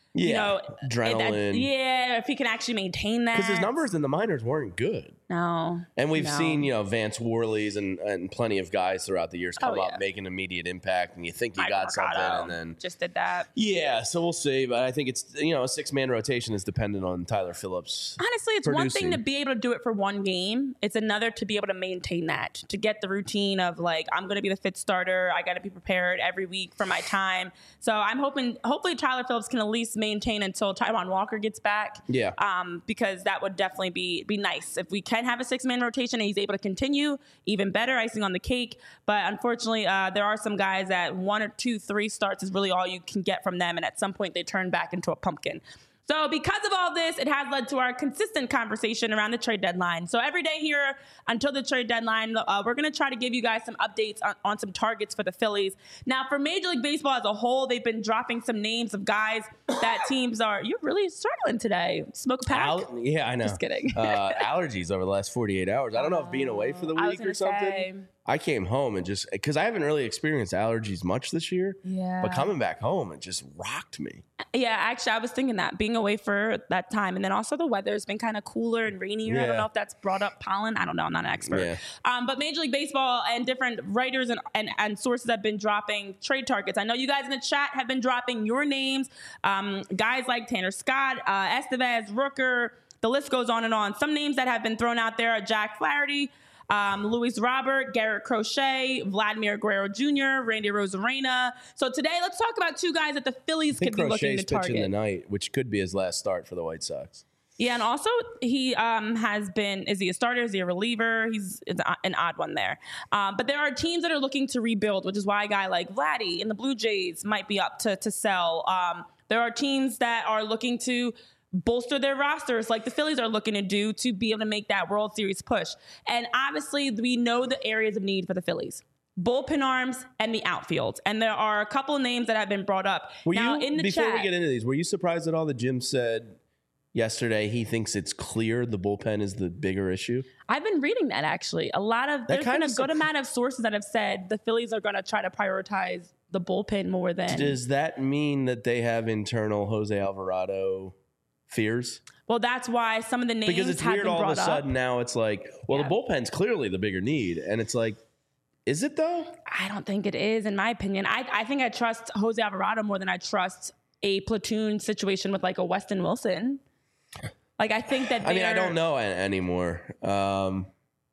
Yeah, you know, adrenaline. That, yeah, if he can actually maintain that. Because his numbers in the minors weren't good. No. And we've no. seen, you know, Vance Worley's and, and plenty of guys throughout the years come Oh, up, yeah. make an immediate impact, and you think you Michael got Mercado something, and then just did that. Yeah, so we'll see. But I think it's, you know, a six-man rotation is dependent on Tyler Phillips. Honestly, it's one thing producing. to be able to do it for one game. It's another to be able to maintain that, to get the routine of like, I'm going to be the fifth starter. I got to be prepared every week for my time. So I'm hoping, hopefully Tyler Phillips can at least maintain until Taijuan Walker gets back. Yeah. Um, because that would definitely be be nice. If we can have a six-man rotation and he's able to continue, even better, icing on the cake. But unfortunately, uh, there are some guys that one or two, three starts is really all you can get from them. And at some point, they turn back into a pumpkin. So because of all this, it has led to our consistent conversation around the trade deadline. So every day here until the trade deadline, uh, we're going to try to give you guys some updates on, on some targets for the Phillies. Now, for Major League Baseball as a whole, they've been dropping some names of guys that teams are, you're really struggling today. Smoke a pack? Al- yeah, I know. Just kidding. uh, allergies over the last forty-eight hours. I don't know if being away for the I was week gonna or something. say. I came home and just, because I haven't really experienced allergies much this year. Yeah. But coming back home, it just rocked me. Yeah, actually, I was thinking that being away for that time. And then also the weather has been kind of cooler and rainier. I don't Yeah. know if that's brought up pollen. I don't know. I'm not an expert. Yeah. Um, but Major League Baseball and different writers and, and, and sources have been dropping trade targets. I know you guys in the chat have been dropping your names. Um, guys like Tanner Scott, uh, Estevez, Rooker, the list goes on and on. Some names that have been thrown out there are Jack Flaherty, Um, Luis Robert, Garrett Crochet, Vladimir Guerrero Junior, Randy Rosarena. So today, let's talk about two guys that the Phillies I think could be looking Crochet's to target. pitching tonight, which could be his last start for the White Sox. Yeah, and also he um, has been, is he a starter? Is he a reliever? He's it's an odd one there. Um, but there are teams that are looking to rebuild, which is why a guy like Vladdy and the Blue Jays might be up to, to sell. Um, there are teams that are looking to bolster their rosters like the Phillies are looking to do to be able to make that World Series push. And obviously, we know the areas of need for the Phillies. Bullpen arms and the outfield. And there are a couple of names that have been brought up. Were now, you, in the before chat, we get into these, were you surprised at all that Jim said yesterday he thinks it's clear the bullpen is the bigger issue? I've been reading that actually. A lot of there's been a good amount of sources that have said the Phillies are going to try to prioritize the bullpen more than. Does that mean that they have internal Jose Alvarado fears? Well, that's why some of the names Because it's have weird been all of brought a sudden up. now it's like, well, Yeah. the bullpen's clearly the bigger need. And it's like, is it though? I don't think it is, in my opinion. I, I think I trust Jose Alvarado more than I trust a platoon situation with like a Weston Wilson. Like, I think that I mean, I they're- don't know a- anymore. Um,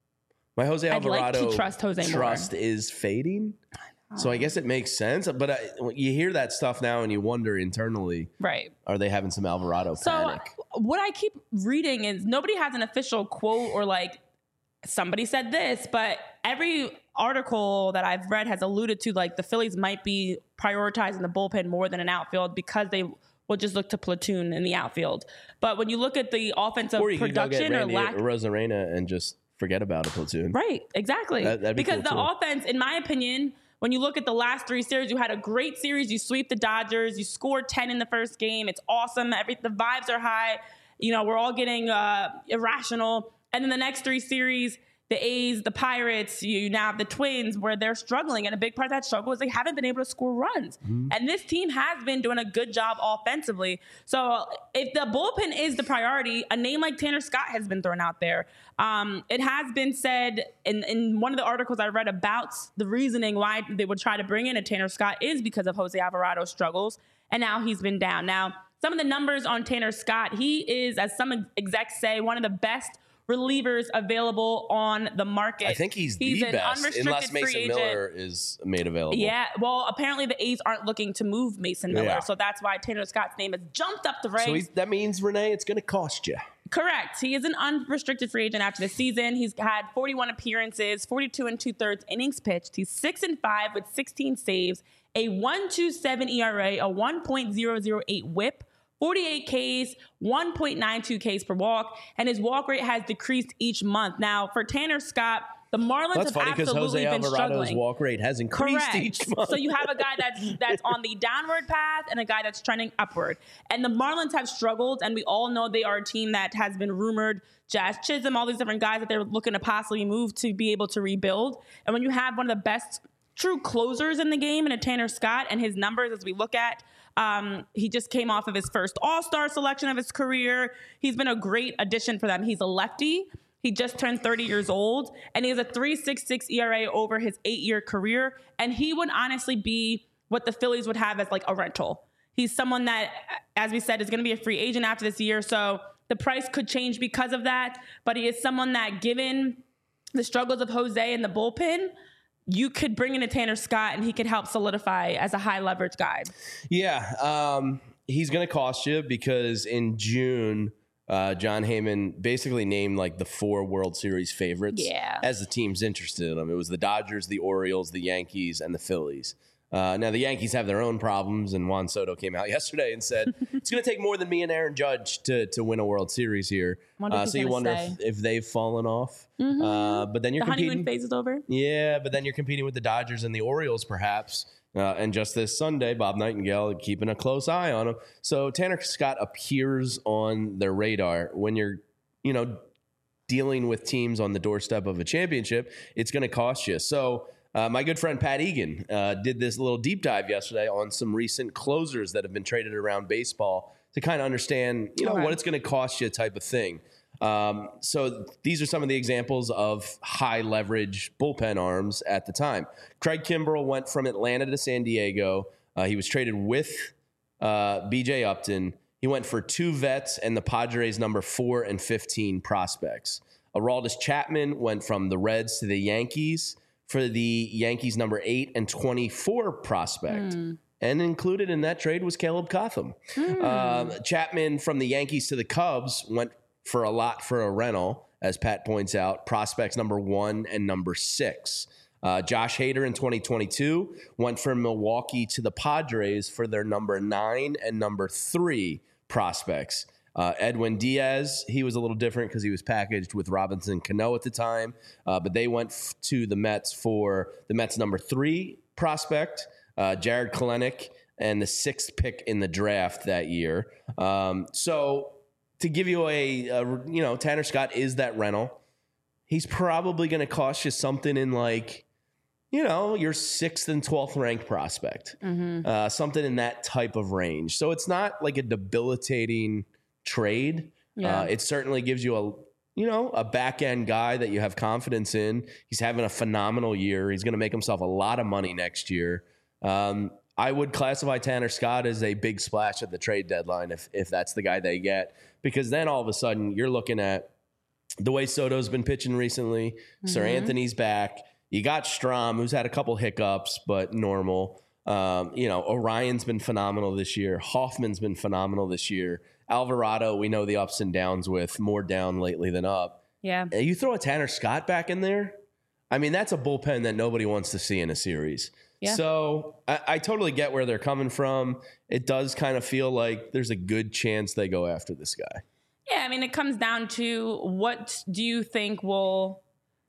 my Jose I'd like to Alvarado trust Jose more. trust is fading. So I guess it makes sense. But I, you hear that stuff now and you wonder internally, Right. are they having some Alvarado So panic? what I keep reading is nobody has an official quote or like somebody said this, but every article that I've read has alluded to like the Phillies might be prioritizing the bullpen more than an outfield because they will just look to platoon in the outfield. But when you look at the offensive Or you could go get production or Randy lack, Rosarena and just forget about a platoon. right, exactly. That- that'd be because cool, the too. offense, in my opinion, when you look at the last three series, you had a great series. You sweep the Dodgers. You scored ten in the first game. It's awesome. Every the vibes are high. You know, we're all getting uh, irrational. And then the next three series, the A's, the Pirates, you now have the Twins where they're struggling. And a big part of that struggle is they haven't been able to score runs. Mm-hmm. And this team has been doing a good job offensively. So if the bullpen is the priority, a name like Tanner Scott has been thrown out there. Um, it has been said in, in one of the articles I read about the reasoning why they would try to bring in a Tanner Scott is because of Jose Alvarado's struggles. And now he's been down. Now, some of the numbers on Tanner Scott, he is, as some execs say, one of the best relievers available on the market. I think he's, he's the an best, unrestricted unless free Mason agent. Miller is made available. Yeah, well, apparently the A's aren't looking to move Mason Miller, Yeah. so that's why Tanner Scott's name has jumped up the ranks. So he's, that means, Renee, it's going to cost you. Correct. He is an unrestricted free agent after the season. He's had forty-one appearances, forty-two and two-thirds innings pitched. He's six and five with sixteen saves, a one point two seven E R A, a one point oh oh eight whip, forty-eight Ks, one point nine two Ks per walk, and his walk rate has decreased each month. Now, for Tanner Scott, the Marlins That's have funny because absolutely Jose been Alvarado's struggling. walk rate has increased Correct. each month. So you have a guy that's that's on the downward path and a guy that's trending upward. And the Marlins have struggled, and we all know they are a team that has been rumored, Jazz Chisholm, all these different guys that they're looking to possibly move to be able to rebuild. And when you have one of the best true closers in the game in a Tanner Scott and his numbers as we look at, Um, he just came off of his first All-Star selection of his career. He's been a great addition for them. He's a lefty. He just turned thirty years old, and he has a three point six six E R A over his eight-year career. And he would honestly be what the Phillies would have as like a rental. He's someone that, as we said, is going to be a free agent after this year. So the price could change because of that. But he is someone that, given the struggles of Jose in the bullpen, you could bring in a Tanner Scott and he could help solidify as a high leverage guy. Yeah. Um, he's going to cost you because in June, uh, John Heyman basically named like the four World Series favorites yeah. as the teams interested in them. It was the Dodgers, the Orioles, the Yankees, and the Phillies. Uh, now, the Yankees have their own problems, and Juan Soto came out yesterday and said, it's going to take more than me and Aaron Judge to, to win a World Series here. Uh, so you wonder if, if they've fallen off. Mm-hmm. Uh, but then you're the competing. honeymoon phase is over? Yeah, but then you're competing with the Dodgers and the Orioles, perhaps. Uh, and just this Sunday, Bob Nightingale keeping a close eye on him. So Tanner Scott appears on their radar when you're, you know, dealing with teams on the doorstep of a championship. It's going to cost you. So Uh, my good friend Pat Egan uh, did this little deep dive yesterday on some recent closers that have been traded around baseball to kind of understand, you know, okay. what it's going to cost you type of thing. Um, so these are some of the examples of high leverage bullpen arms at the time. Craig Kimbrell went from Atlanta to San Diego. Uh, he was traded with uh, B J Upton. He went for two vets and the Padres number four and fifteen prospects. Aroldis Chapman went from the Reds to the Yankees for the Yankees number eight and twenty-four prospect. Mm. And included in that trade was Caleb Cotham. Mm. Uh, Chapman from the Yankees to the Cubs went for a lot for a rental, as Pat points out, prospects number one and number six. Uh, Josh Hader in twenty twenty-two went from Milwaukee to the Padres for their number nine and number three prospects. Uh, Edwin Diaz, he was a little different because he was packaged with Robinson Cano at the time, uh, but they went f- to the Mets for the Mets number three prospect, uh, Jared Kelenic, and the sixth pick in the draft that year. Um, so to give you a, a, you know, Tanner Scott is that rental. He's probably going to cost you something in like, you know, your sixth and twelfth ranked prospect, mm-hmm. uh, something in that type of range. So it's not like a debilitating trade. Yeah. Uh, it certainly gives you a, you know, a back end guy that you have confidence in. He's having a phenomenal year. He's going to make himself a lot of money next year. Um, I would classify Tanner Scott as a big splash at the trade deadline if if that's the guy they get, because then all of a sudden you're looking at the way Soto's been pitching recently. Mm-hmm. Sir Anthony's back. You got Strom, who's had a couple hiccups, but normal. Um, you know, Orion's been phenomenal this year. Hoffman's been phenomenal this year. Alvarado, we know the ups and downs with, more down lately than up. Yeah. You throw a Tanner Scott back in there, I mean, that's a bullpen that nobody wants to see in a series. Yeah. So I, I totally get where they're coming from. It does kind of feel like there's a good chance they go after this guy. Yeah, I mean, it comes down to what do you think will,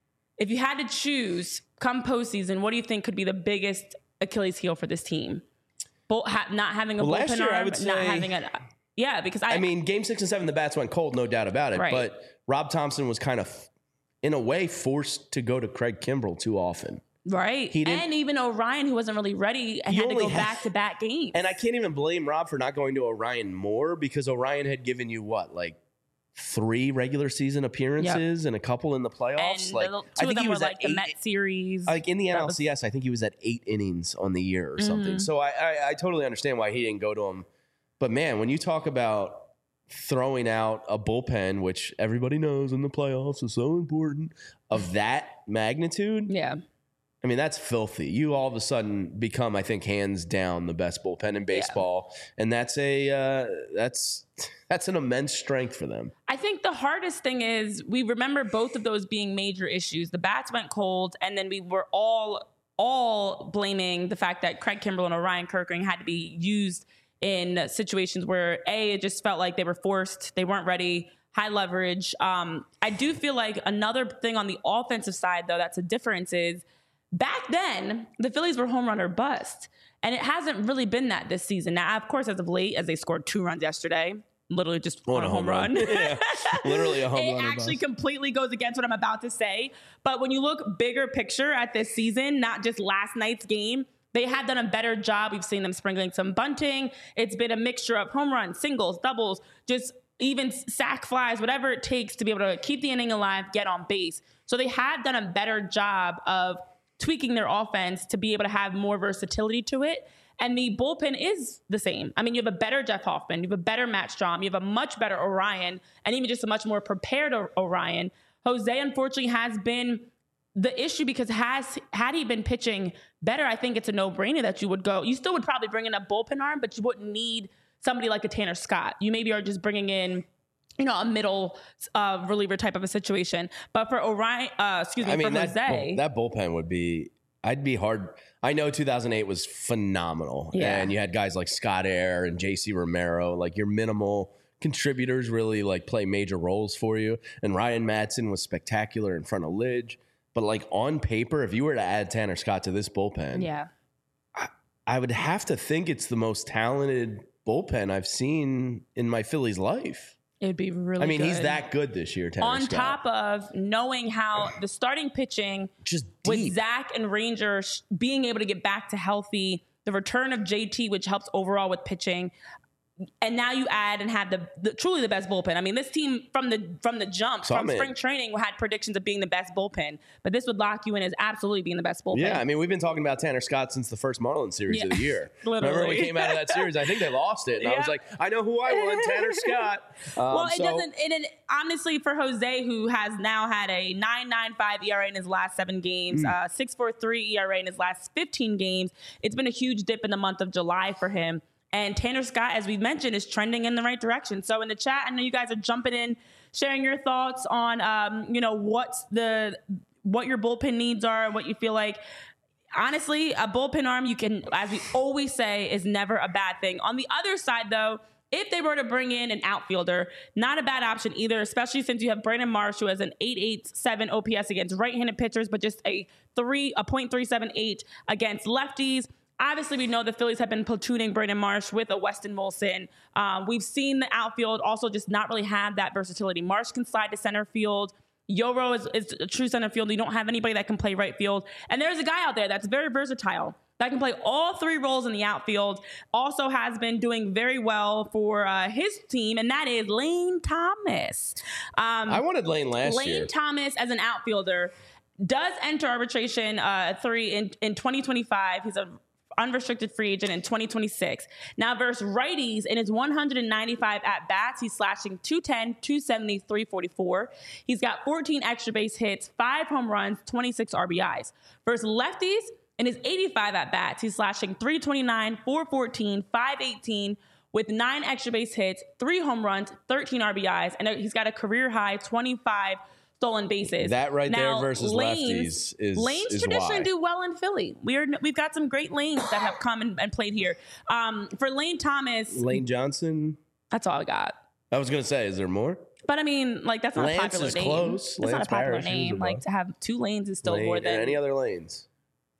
if you had to choose come postseason, what do you think could be the biggest Achilles heel for this team? Bull, ha, not having a well, bullpen last year, arm, I would say, not having a... Yeah, because I... I mean, game six and seven, the bats went cold, no doubt about it. Right. But Rob Thompson was kind of, in a way, forced to go to Craig Kimbrell too often. Right. He didn't, and even Orion, who wasn't really ready and had to go had, back-to-back games. And I can't even blame Rob for not going to Orion more, because Orion had given you, what, like three regular season appearances yep. and a couple in the playoffs? And like, the, two I think of them he was were at like eight, the Met series. Like in the N L C S, was, I think he was at eight innings on the year or something. Mm-hmm. So I, I, I totally understand why he didn't go to him. But, man, when you talk about throwing out a bullpen, which everybody knows in the playoffs is so important, of that magnitude. Yeah. I mean, that's filthy. You all of a sudden become, I think, hands down the best bullpen in baseball. Yeah. And that's a uh, that's that's an immense strength for them. I think the hardest thing is we remember both of those being major issues. The bats went cold, and then we were all all blaming the fact that Craig Kimbrell and Orion Kerkering had to be used in situations where, A, it just felt like they were forced, they weren't ready, high leverage. Um, I do feel like another thing on the offensive side, though, that's a difference is back then, the Phillies were home run or bust. And it hasn't really been that this season. Now, of course, as of late, as they scored two runs yesterday, literally just on, on a home, home run. run. Yeah, literally a home it run. It actually completely goes against what I'm about to say. But when you look bigger picture at this season, not just last night's game, They have done a better job. We've seen them sprinkling some bunting. It's been a mixture of home runs, singles, doubles, just even sack flies, whatever it takes to be able to keep the inning alive, get on base. So they have done a better job of tweaking their offense to be able to have more versatility to it. And the bullpen is the same. I mean, you have a better Jeff Hoffman, you have a better Matt Strahm, you have a much better Orion, and even just a much more prepared Orion. Jose, unfortunately, has been the issue because has had he been pitching better, I think it's a no-brainer that you would go. You still would probably bring in a bullpen arm, but you wouldn't need somebody like a Tanner Scott. You maybe are just bringing in, you know, a middle uh, reliever type of a situation. But for Orion, uh, excuse me, I mean, for that, Jose, that bullpen would be. I'd be hard. I know two thousand eight was phenomenal, Yeah. and you had guys like Scott Air and J C Romero, like your minimal contributors really like play major roles for you. And Ryan Madsen was spectacular in front of Lidge. But like on paper, if you were to add Tanner Scott to this bullpen, yeah. I, I would have to think it's the most talented bullpen I've seen in my Phillies life. It would be really I mean, good. he's that good this year, Tanner On Scott. top of knowing how the starting pitching Just with deep. Zach and Ranger sh- being able to get back to healthy, the return of J T, which helps overall with pitching. And now you add and have the, the truly the best bullpen. I mean, this team from the from the jump, So from I'm in. spring training, had predictions of being the best bullpen. But this would lock you in as absolutely being the best bullpen. Yeah, I mean, we've been talking about Tanner Scott since the first Marlins series Yeah. of the year. Literally. Remember when we came out of that series? I think they lost it. And I was Yeah. like, I know who I want, Tanner Scott. Um, Well, it so- doesn't. It, it honestly for Jose, who has now had a nine point nine five E R A in his last seven games, Mm. uh, six point four three E R A in his last fifteen games. It's been a huge dip in the month of July for him. And Tanner Scott, as we mentioned, is trending in the right direction. So in the chat, I know you guys are jumping in, sharing your thoughts on, um, you know, what's the what your bullpen needs are, and what you feel like. Honestly, a bullpen arm, you can, as we always say, is never a bad thing. On the other side, though, if they were to bring in an outfielder, not a bad option either, especially since you have Brandon Marsh, who has an eight point eight seven O P S against right-handed pitchers, but just a three a point three seven eight against lefties. Obviously, we know the Phillies have been platooning Brandon Marsh with a Weston Wilson. Um, we've seen the outfield also just not really have that versatility. Marsh can slide to center field. Yoro is, is a true center field. You don't have anybody that can play right field. And there's a guy out there that's very versatile that can play all three roles in the outfield. Also has been doing very well for uh, his team, and that is Lane Thomas. Um, I wanted Lane last Lane year. Thomas as an outfielder does enter arbitration uh, three in, in twenty twenty-five. He's a unrestricted free agent in twenty twenty-six. Now versus righties in his one hundred ninety-five at-bats, he's slashing two ten, two seventy, three forty-four. He's got fourteen extra base hits, five home runs, twenty-six R B Is. Versus lefties in his eighty-five at-bats, he's slashing three twenty-nine, four fourteen, five eighteen with nine extra base hits, three home runs, thirteen R B Is, and he's got a career-high twenty-five stolen bases. That right there Now, versus lanes, lefties is- lanes is traditionally why. do well in Philly. We are we've got some great lanes that have come and, and played here. Um, for Lane Thomas, Lane Johnson. that's all I got. I was going to say, is there more? But I mean, like that's not Lance a popular is name. close. That's not Lance a popular Parrish is name. above. Like to have two lanes is still Lane, more and than any other lanes?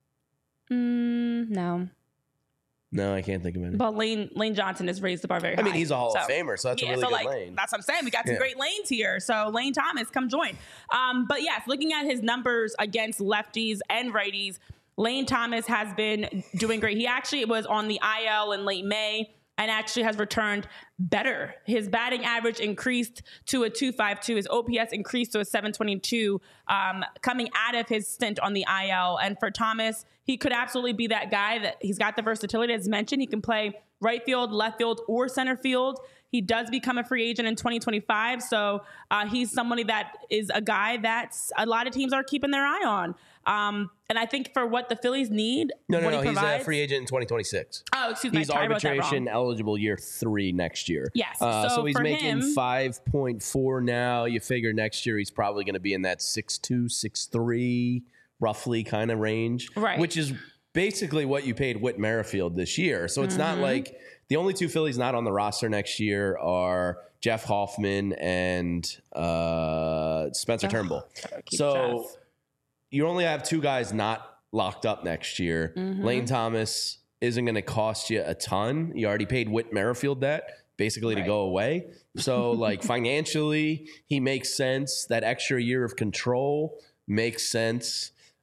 Mm, no. No, I can't think of any. But Lane Lane Johnson has raised the bar very high. I mean, he's a Hall So, of Famer, so that's yeah, a really so good like lane. that's what I'm saying. We got some Yeah. great lanes here. So Lane Thomas, come join. Um, but yes, looking at his numbers against lefties and righties, Lane Thomas has been doing great. He actually was on the I L in late May and actually has returned better. His batting average increased to a two fifty-two. His O P S increased to a seven twenty-two um, coming out of his stint on the I L. And for Thomas, he could absolutely be that guy that he's got the versatility as mentioned. He can play right field, left field, or center field. He does become a free agent in twenty twenty-five. So uh, he's somebody that is a guy that a lot of teams are keeping their eye on. Um, and I think for what the Phillies need, No, no, what no. he He's a provides- free agent in twenty twenty-six. Oh, excuse me. He's I wrote that wrong. arbitration eligible year three next year. Yes, Uh, so so he's for making him- five point four now. You figure next year he's probably going to be in that six two, six three, roughly kind of range. Right. Which is basically what you paid Whit Merrifield this year. So it's Mm-hmm. not like the only two Phillies not on the roster next year are Jeff Hoffman and uh, Spencer Turnbull. keep So Jeff. you only have two guys not locked up next year. Mm-hmm. Lane Thomas isn't going to cost you a ton. You already paid Whit Merrifield that basically to Right. go away. So like financially, he makes sense. That extra year of control makes sense.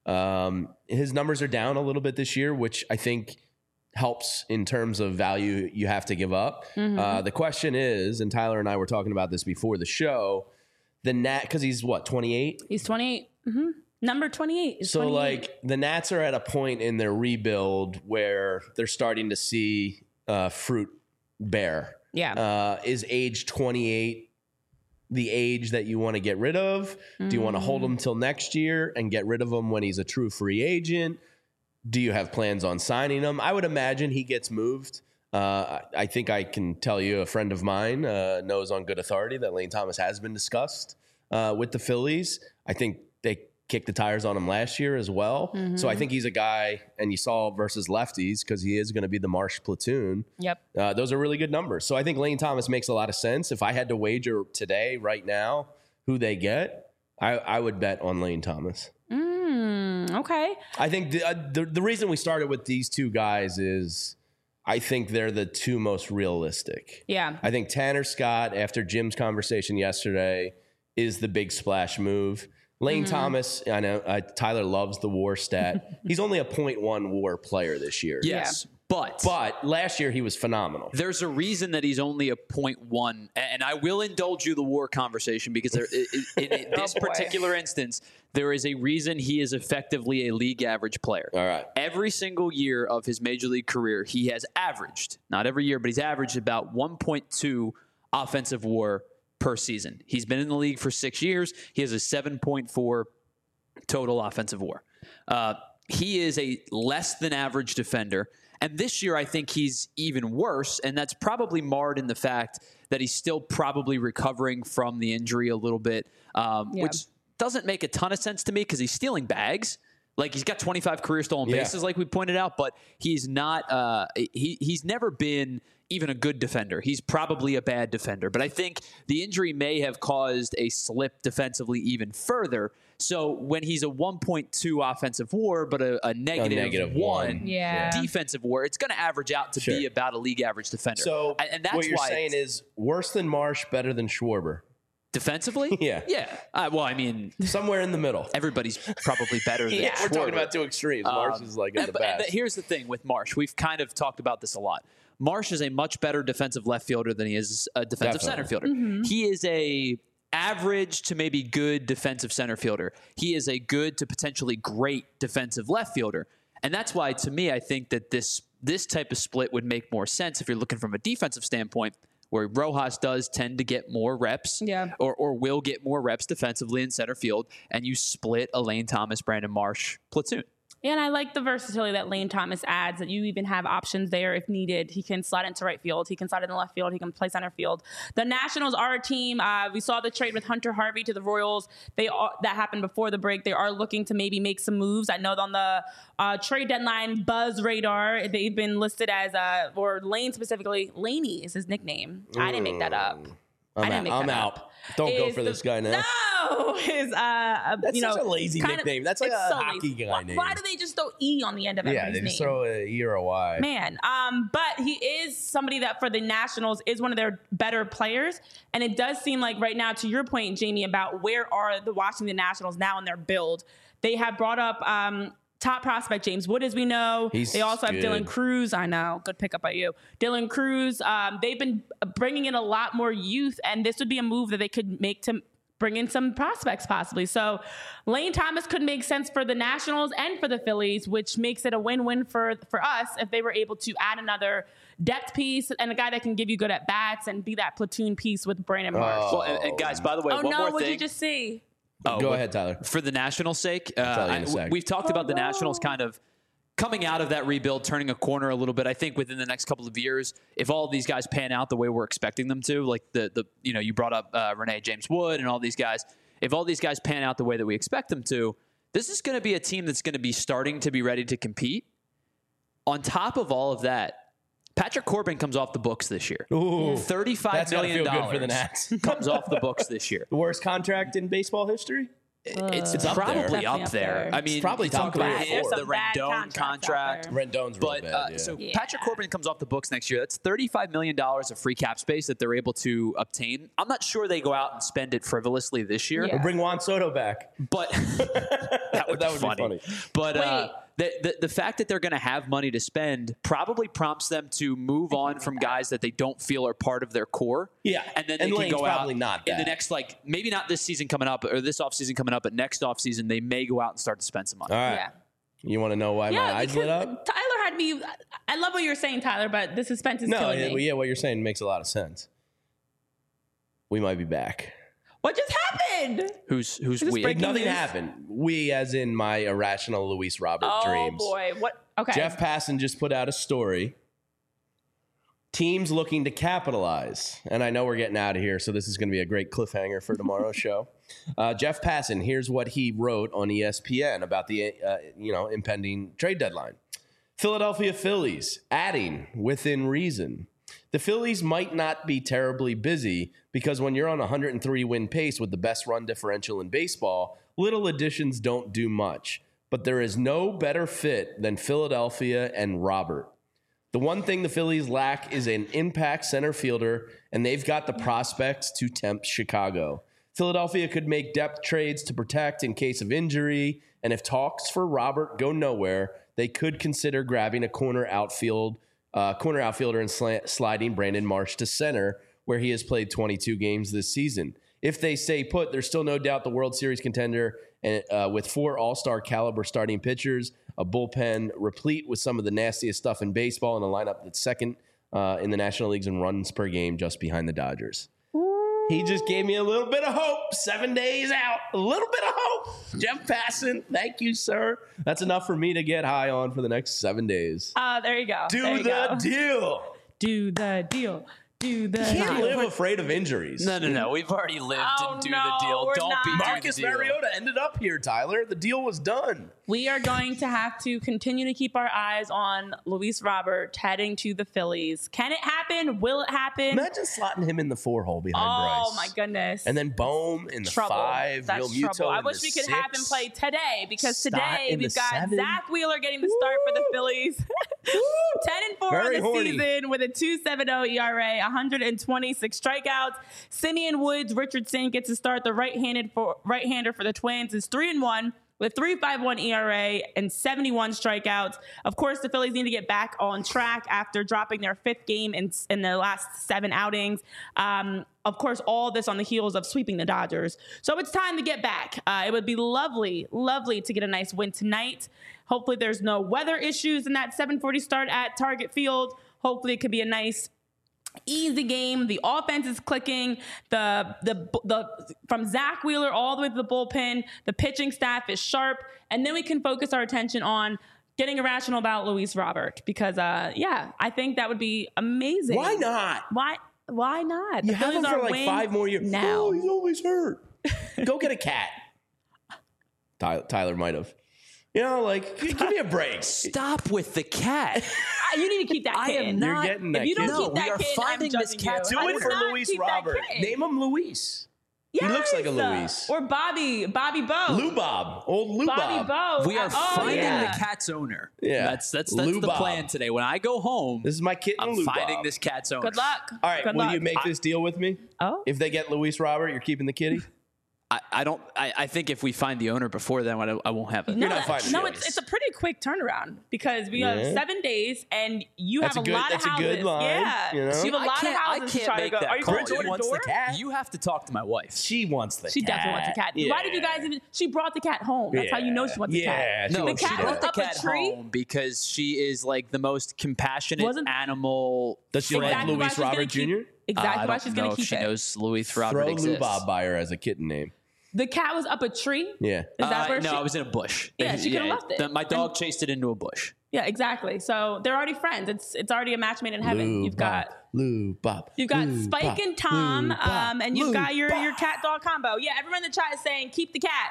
Um, his numbers are down a little bit this year, which I think helps in terms of value you have to give up. Mm-hmm. Uh, the question is, and Tyler and I were talking about this before the show, the Nat, because he's what, twenty-eight? He's twenty-eight. Mm-hmm. Number twenty-eight. Is So, twenty-eight. like, the Nats are at a point in their rebuild where they're starting to see uh, fruit bear. Yeah. Uh, is age twenty-eight the age that you want to get rid of? Do you want to hold him till next year and get rid of him when he's a true free agent? Do you have plans on signing him? I would imagine he gets moved. Uh, I think I can tell you a friend of mine uh, knows on good authority that Lane Thomas has been discussed uh, with the Phillies. I think they kicked the tires on him last year as well. Mm-hmm. So I think he's a guy, and you saw versus lefties because he is going to be the Marsh platoon. Yep. Uh, those are really good numbers. So I think Lane Thomas makes a lot of sense. If I had to wager today, right now, who they get, I, I would bet on Lane Thomas. Mm, okay. I think the, uh, the the reason we started with these two guys is I think they're the two most realistic. Yeah. I think Tanner Scott, after Jim's conversation yesterday, is the big splash move. Lane mm-hmm. Thomas, I know uh, Tyler loves the WAR stat. He's only a point one WAR player this year. Yes, yeah. but but last year he was phenomenal. There's a reason that he's only a point one, and I will indulge you the WAR conversation because there, in, in, in this oh particular instance, there is a reason he is effectively a league average player. All right. Every single year of his major league career, he has averaged, not every year, but he's averaged about one point two offensive WAR per season. He's been in the league for six years. He has a seven point four total offensive WAR. Uh, he is a less than average defender. And this year, I think he's even worse. And that's probably marred in the fact that he's still probably recovering from the injury a little bit, um, yeah. which doesn't make a ton of sense to me because he's stealing bags. Like, he's got twenty-five career stolen yeah. bases, like we pointed out, but he's not, uh, he he's never been even a good defender. He's probably a bad defender. But I think the injury may have caused a slip defensively even further. So when he's a one point two offensive WAR, but a, a negative, a negative one, one. Yeah. defensive WAR, it's going to average out to Sure. be about a league average defender. So and that's what you're why saying is worse than Marsh, better than Schwarber. defensively? Yeah. Yeah. Uh, well, I mean, Somewhere in the middle. everybody's probably better than Yeah. We're talking Schwarber. about two extremes. Marsh is like at And- the but- and best. here's the thing with Marsh. We've kind of talked about this a lot. Marsh is a much better defensive left fielder than he is a defensive Definitely. center fielder. Mm-hmm. He is a average to maybe good defensive center fielder. He is a good to potentially great defensive left fielder. And that's why, to me, I think that this this type of split would make more sense if you're looking from a defensive standpoint, where Rojas does tend to get more reps Yeah. or, or will get more reps defensively in center field, and you split a Lane Thomas, Brandon Marsh platoon. Yeah, and I like the versatility that Lane Thomas adds, that you even have options there if needed. He can slide into right field. He can slide in the left field. He can play center field. The Nationals are a team. Uh, we saw the trade with Hunter Harvey to the Royals. They are, that happened before the break. They are looking to maybe make some moves. I know on the uh, trade deadline buzz radar, they've been listed as, uh, or Lane specifically, Laney is his nickname. I didn't make that up. I'm I didn't out. make I'm that out. up. Don't go Is for the- this guy now. No, is uh, That's you know, such a lazy kind of- nickname. That's like it's a so hockey lazy. guy why, name. Why do they just throw E on the end of Yeah, everybody's they just name? throw a E or a Y. Man, um, but he is somebody that for the Nationals is one of their better players, and it does seem like right now, to your point, Jamie, about where are the Washington Nationals now in their build, they have brought up um, top prospect James Wood, as we know. He's they also have good. Dylan Cruz. I know, good pickup by you, Dylan Cruz. Um, they've been bringing in a lot more youth, and this would be a move that they could make to bring in some prospects possibly. So Lane Thomas could make sense for the Nationals and for the Phillies, which makes it a win-win for, for us if they were able to add another depth piece and a guy that can give you good at bats and be that platoon piece with Brandon Marsh. Oh. Well, and, and guys, by the way, oh one no, more what did thing. you just see? Oh, Go what- ahead, Tyler. For the Nationals' sake, uh, tell you in a I- sec. we've talked Oh, about the no. Nationals kind of coming out of that rebuild, turning a corner a little bit. I think within the next couple of years, if all of these guys pan out the way we're expecting them to, like the the you know you brought up uh, Renee James Wood and all these guys, if all these guys pan out the way that we expect them to, this is going to be a team that's going to be starting to be ready to compete. On top of all of that, Patrick Corbin comes off the books this year. Ooh, Thirty-five that's gotta million feel good for the dollars Nats. comes off the books this year. The worst contract in baseball history? It's, It's up there. probably Definitely up up there. there. I mean, probably you top talk about three or him, four. the There's some bad Rendon contracts out contract. there. Rendon's real But bad. uh, yeah. so Yeah. Patrick Corbin comes off the books next year. That's thirty-five million dollars of free cap space that they're able to obtain. I'm not sure they go out and spend it frivolously this year, Yeah. Or bring Juan Soto back. but that would, That be, would funny. be funny. But uh, Wait. the, the the fact that they're going to have money to spend probably prompts them to move on from guys that they don't feel are part of their core. Yeah. and then And they Lane's can go out probably not in the that. next, like, maybe not this season coming up or this offseason coming up, but next offseason they may go out and start to spend some money. All right. Yeah. You want to know why my Yeah, eyes lit because up? Tyler had me. I love what you're saying, Tyler, but the suspense is No, killing yeah, me. well, yeah, what you're saying makes a lot of sense. We might be back. What just happened? Who's who's Is this we? breaking Nothing news? happened. We, as in my irrational Luis Robert Oh dreams. boy, what? Okay, Jeff Passan just put out a story. Teams looking to capitalize. And I know we're getting out of here, so this is going to be a great cliffhanger for tomorrow's show. Uh, Jeff Passan, here's what he wrote on E S P N about the uh, you know impending trade deadline. Philadelphia Phillies adding within reason. The Phillies might not be terribly busy because when you're on a one hundred three win pace with the best run differential in baseball, little additions don't do much. But there is no better fit than Philadelphia and Robert. The one thing the Phillies lack is an impact center fielder, and they've got the prospects to tempt Chicago. Philadelphia could make depth trades to protect in case of injury, and if talks for Robert go nowhere, they could consider grabbing a corner outfield, uh, corner outfielder and slant, sliding Brandon Marsh to center, where he has played twenty-two games this season. If they stay put, there's still no doubt the World Series contender, and uh, with four All-Star caliber starting pitchers, a bullpen replete with some of the nastiest stuff in baseball, and a lineup that's second uh, in the National Leagues in runs per game, just behind the Dodgers. He just gave me a little bit of hope. Seven days out, a little bit of hope. Jeff Passan, thank you, sir. That's enough for me to get high on for the next seven days. uh, there you go. Do There you the go. deal. Do the deal. Do the Can't deal. live afraid of injuries. No, no, no. We've already lived Oh, and do no, the deal. we're Don't be not. do Marcus the deal. Mariota ended up here, Tyler. The deal was done. We are going to have to continue to keep our eyes on Luis Robert heading to the Phillies. Can it happen? Will it happen? Imagine slotting him in the four hole behind Oh Bryce. my goodness. And then Bohm in the trouble. five. That's Real trouble. I in wish the we could have him six. play today because Stott today in the we've got seven. Zach Wheeler getting the start for the Phillies. ten and four Very on the horny. season with a two point seven oh E R A, one hundred twenty-six strikeouts. Simeon Woods Richardson gets to start. The right-handed for right-hander for the Twins is three and one with three point five one E R A and seventy-one strikeouts. Of course, the Phillies need to get back on track after dropping their fifth game in, in the last seven outings. Um, of course, all this on the heels of sweeping the Dodgers. So it's time to get back. Uh, it would be lovely, lovely to get a nice win tonight. Hopefully there's no weather issues in that seven forty start at Target Field. Hopefully it could be a nice easy game. The offense is clicking. The the the from Zach Wheeler all the way to the bullpen, the pitching staff is sharp, and then we can focus our attention on getting irrational about Luis Robert because, uh, yeah, I think that would be amazing. Why not? Why? Why not? You The have him Phillies for are like win five more years. now. Oh, he's always hurt. Go get a cat. Tyler, Tyler might have. You know, like, give me a break. Stop with the cat. Uh, you need to keep that I kid. am You're not- getting that If you don't kid. No, keep that we are kid, finding I'm this judging cat. you. Do I it would for not Luis keep that Robert. kid. Name him Luis. He looks like a Yes. Luis. Or Bobby, Bobby Bo. Lou Bob. Old Lou Bobby Bob. Bo. We are oh, finding yeah. the cat's owner. Yeah. That's that's that's Lou the Bob. plan today. When I go home, This is my kitten, I'm Lou finding Bob. this cat's owner. Good luck. All right, Good will luck. you make this deal with me? Oh. If they get Luis Robert, you're keeping the kitty? I, I don't. I, I think if we find the owner before then, I, I won't have it. No, You're not that- finding no, it. it's, it's a pretty quick turnaround because we Yeah. have seven days and you That's have a a, good- lot of that's a houses. good line, Yeah, you know? so you have a I lot of can't- I houses to can't try to make go. that Are you call. going Bridget door to wants door? the cat. You have to talk to my wife. She wants the She cat. definitely wants a cat. Why did you Yeah. guys even? She brought the cat home. That's how you know she wants a Yeah, cat. she No, The wants she cat the was brought the up a cat tree? home because she is like the most compassionate Wasn't- animal. Does she Exactly like why Luis she's gonna Robert keep- Junior? Exactly Uh, I why don't she's know going to if keep she it. knows Luis Robert Throw Lou exists. Bob by her as a kitten name. The cat was up a tree. Yeah. Is that Uh, where no, she? I was in a bush. Yeah, she could've left it. the- my dog chased it into a bush. Yeah, exactly. So they're already friends. It's it's already a match made in heaven. Lou You've Bob. got Lou Bob. You've got Lou Spike Bob. and Tom, Lou Bob. um, and you've Lou got your, Bob. your cat dog combo. Yeah, everyone in the chat is saying keep the cat.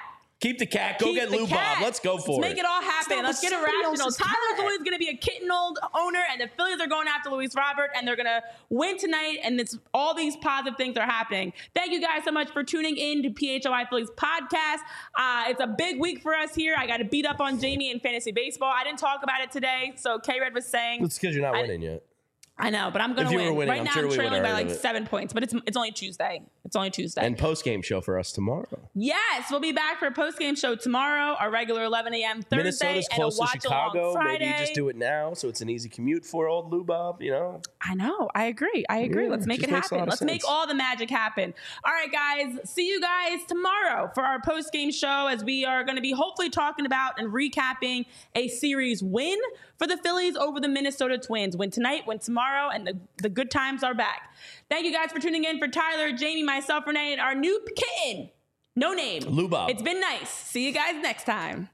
Keep the cat. Go Keep get the Lou cat. Bob. Let's go for Let's it. make it all happen. Let's get irrational. Tyler's always going to be a kitten old owner, and the Phillies are going after Luis Robert, and they're going to win tonight, and it's all these positive things are happening. Thank you guys so much for tuning in to P H O I Phillies podcast. Uh, it's a big week for us here. I got to beat up on Jamie in fantasy baseball. I didn't talk about it today, so K-Red was saying. It's because you're not I, winning yet. I know, but I'm going If to you were win. winning, right I'm now, sure I'm we trailing would've by heard like of it. seven points, but it's it's only Tuesday. It's only Tuesday. And post-game show for us tomorrow. Yes, we'll be back for a post-game show tomorrow, our regular eleven a.m. Thursday, Minnesota's and a close to watch along Chicago. Friday. Maybe you just do it now, so it's an easy commute for old Lou Bob, you know? I know. I agree. I agree. Yeah, Let's make just it makes a lot happen. of Let's make sense. all the magic happen. All right, guys. See you guys tomorrow for our post-game show as we are going to be hopefully talking about and recapping a series win for the Phillies over the Minnesota Twins. Win tonight, win tomorrow, and the, the good times are back. Thank you guys for tuning in. For Tyler, Jamie, myself, Renee, and our new kitten, no name. Lou Bob. It's been nice. See you guys next time.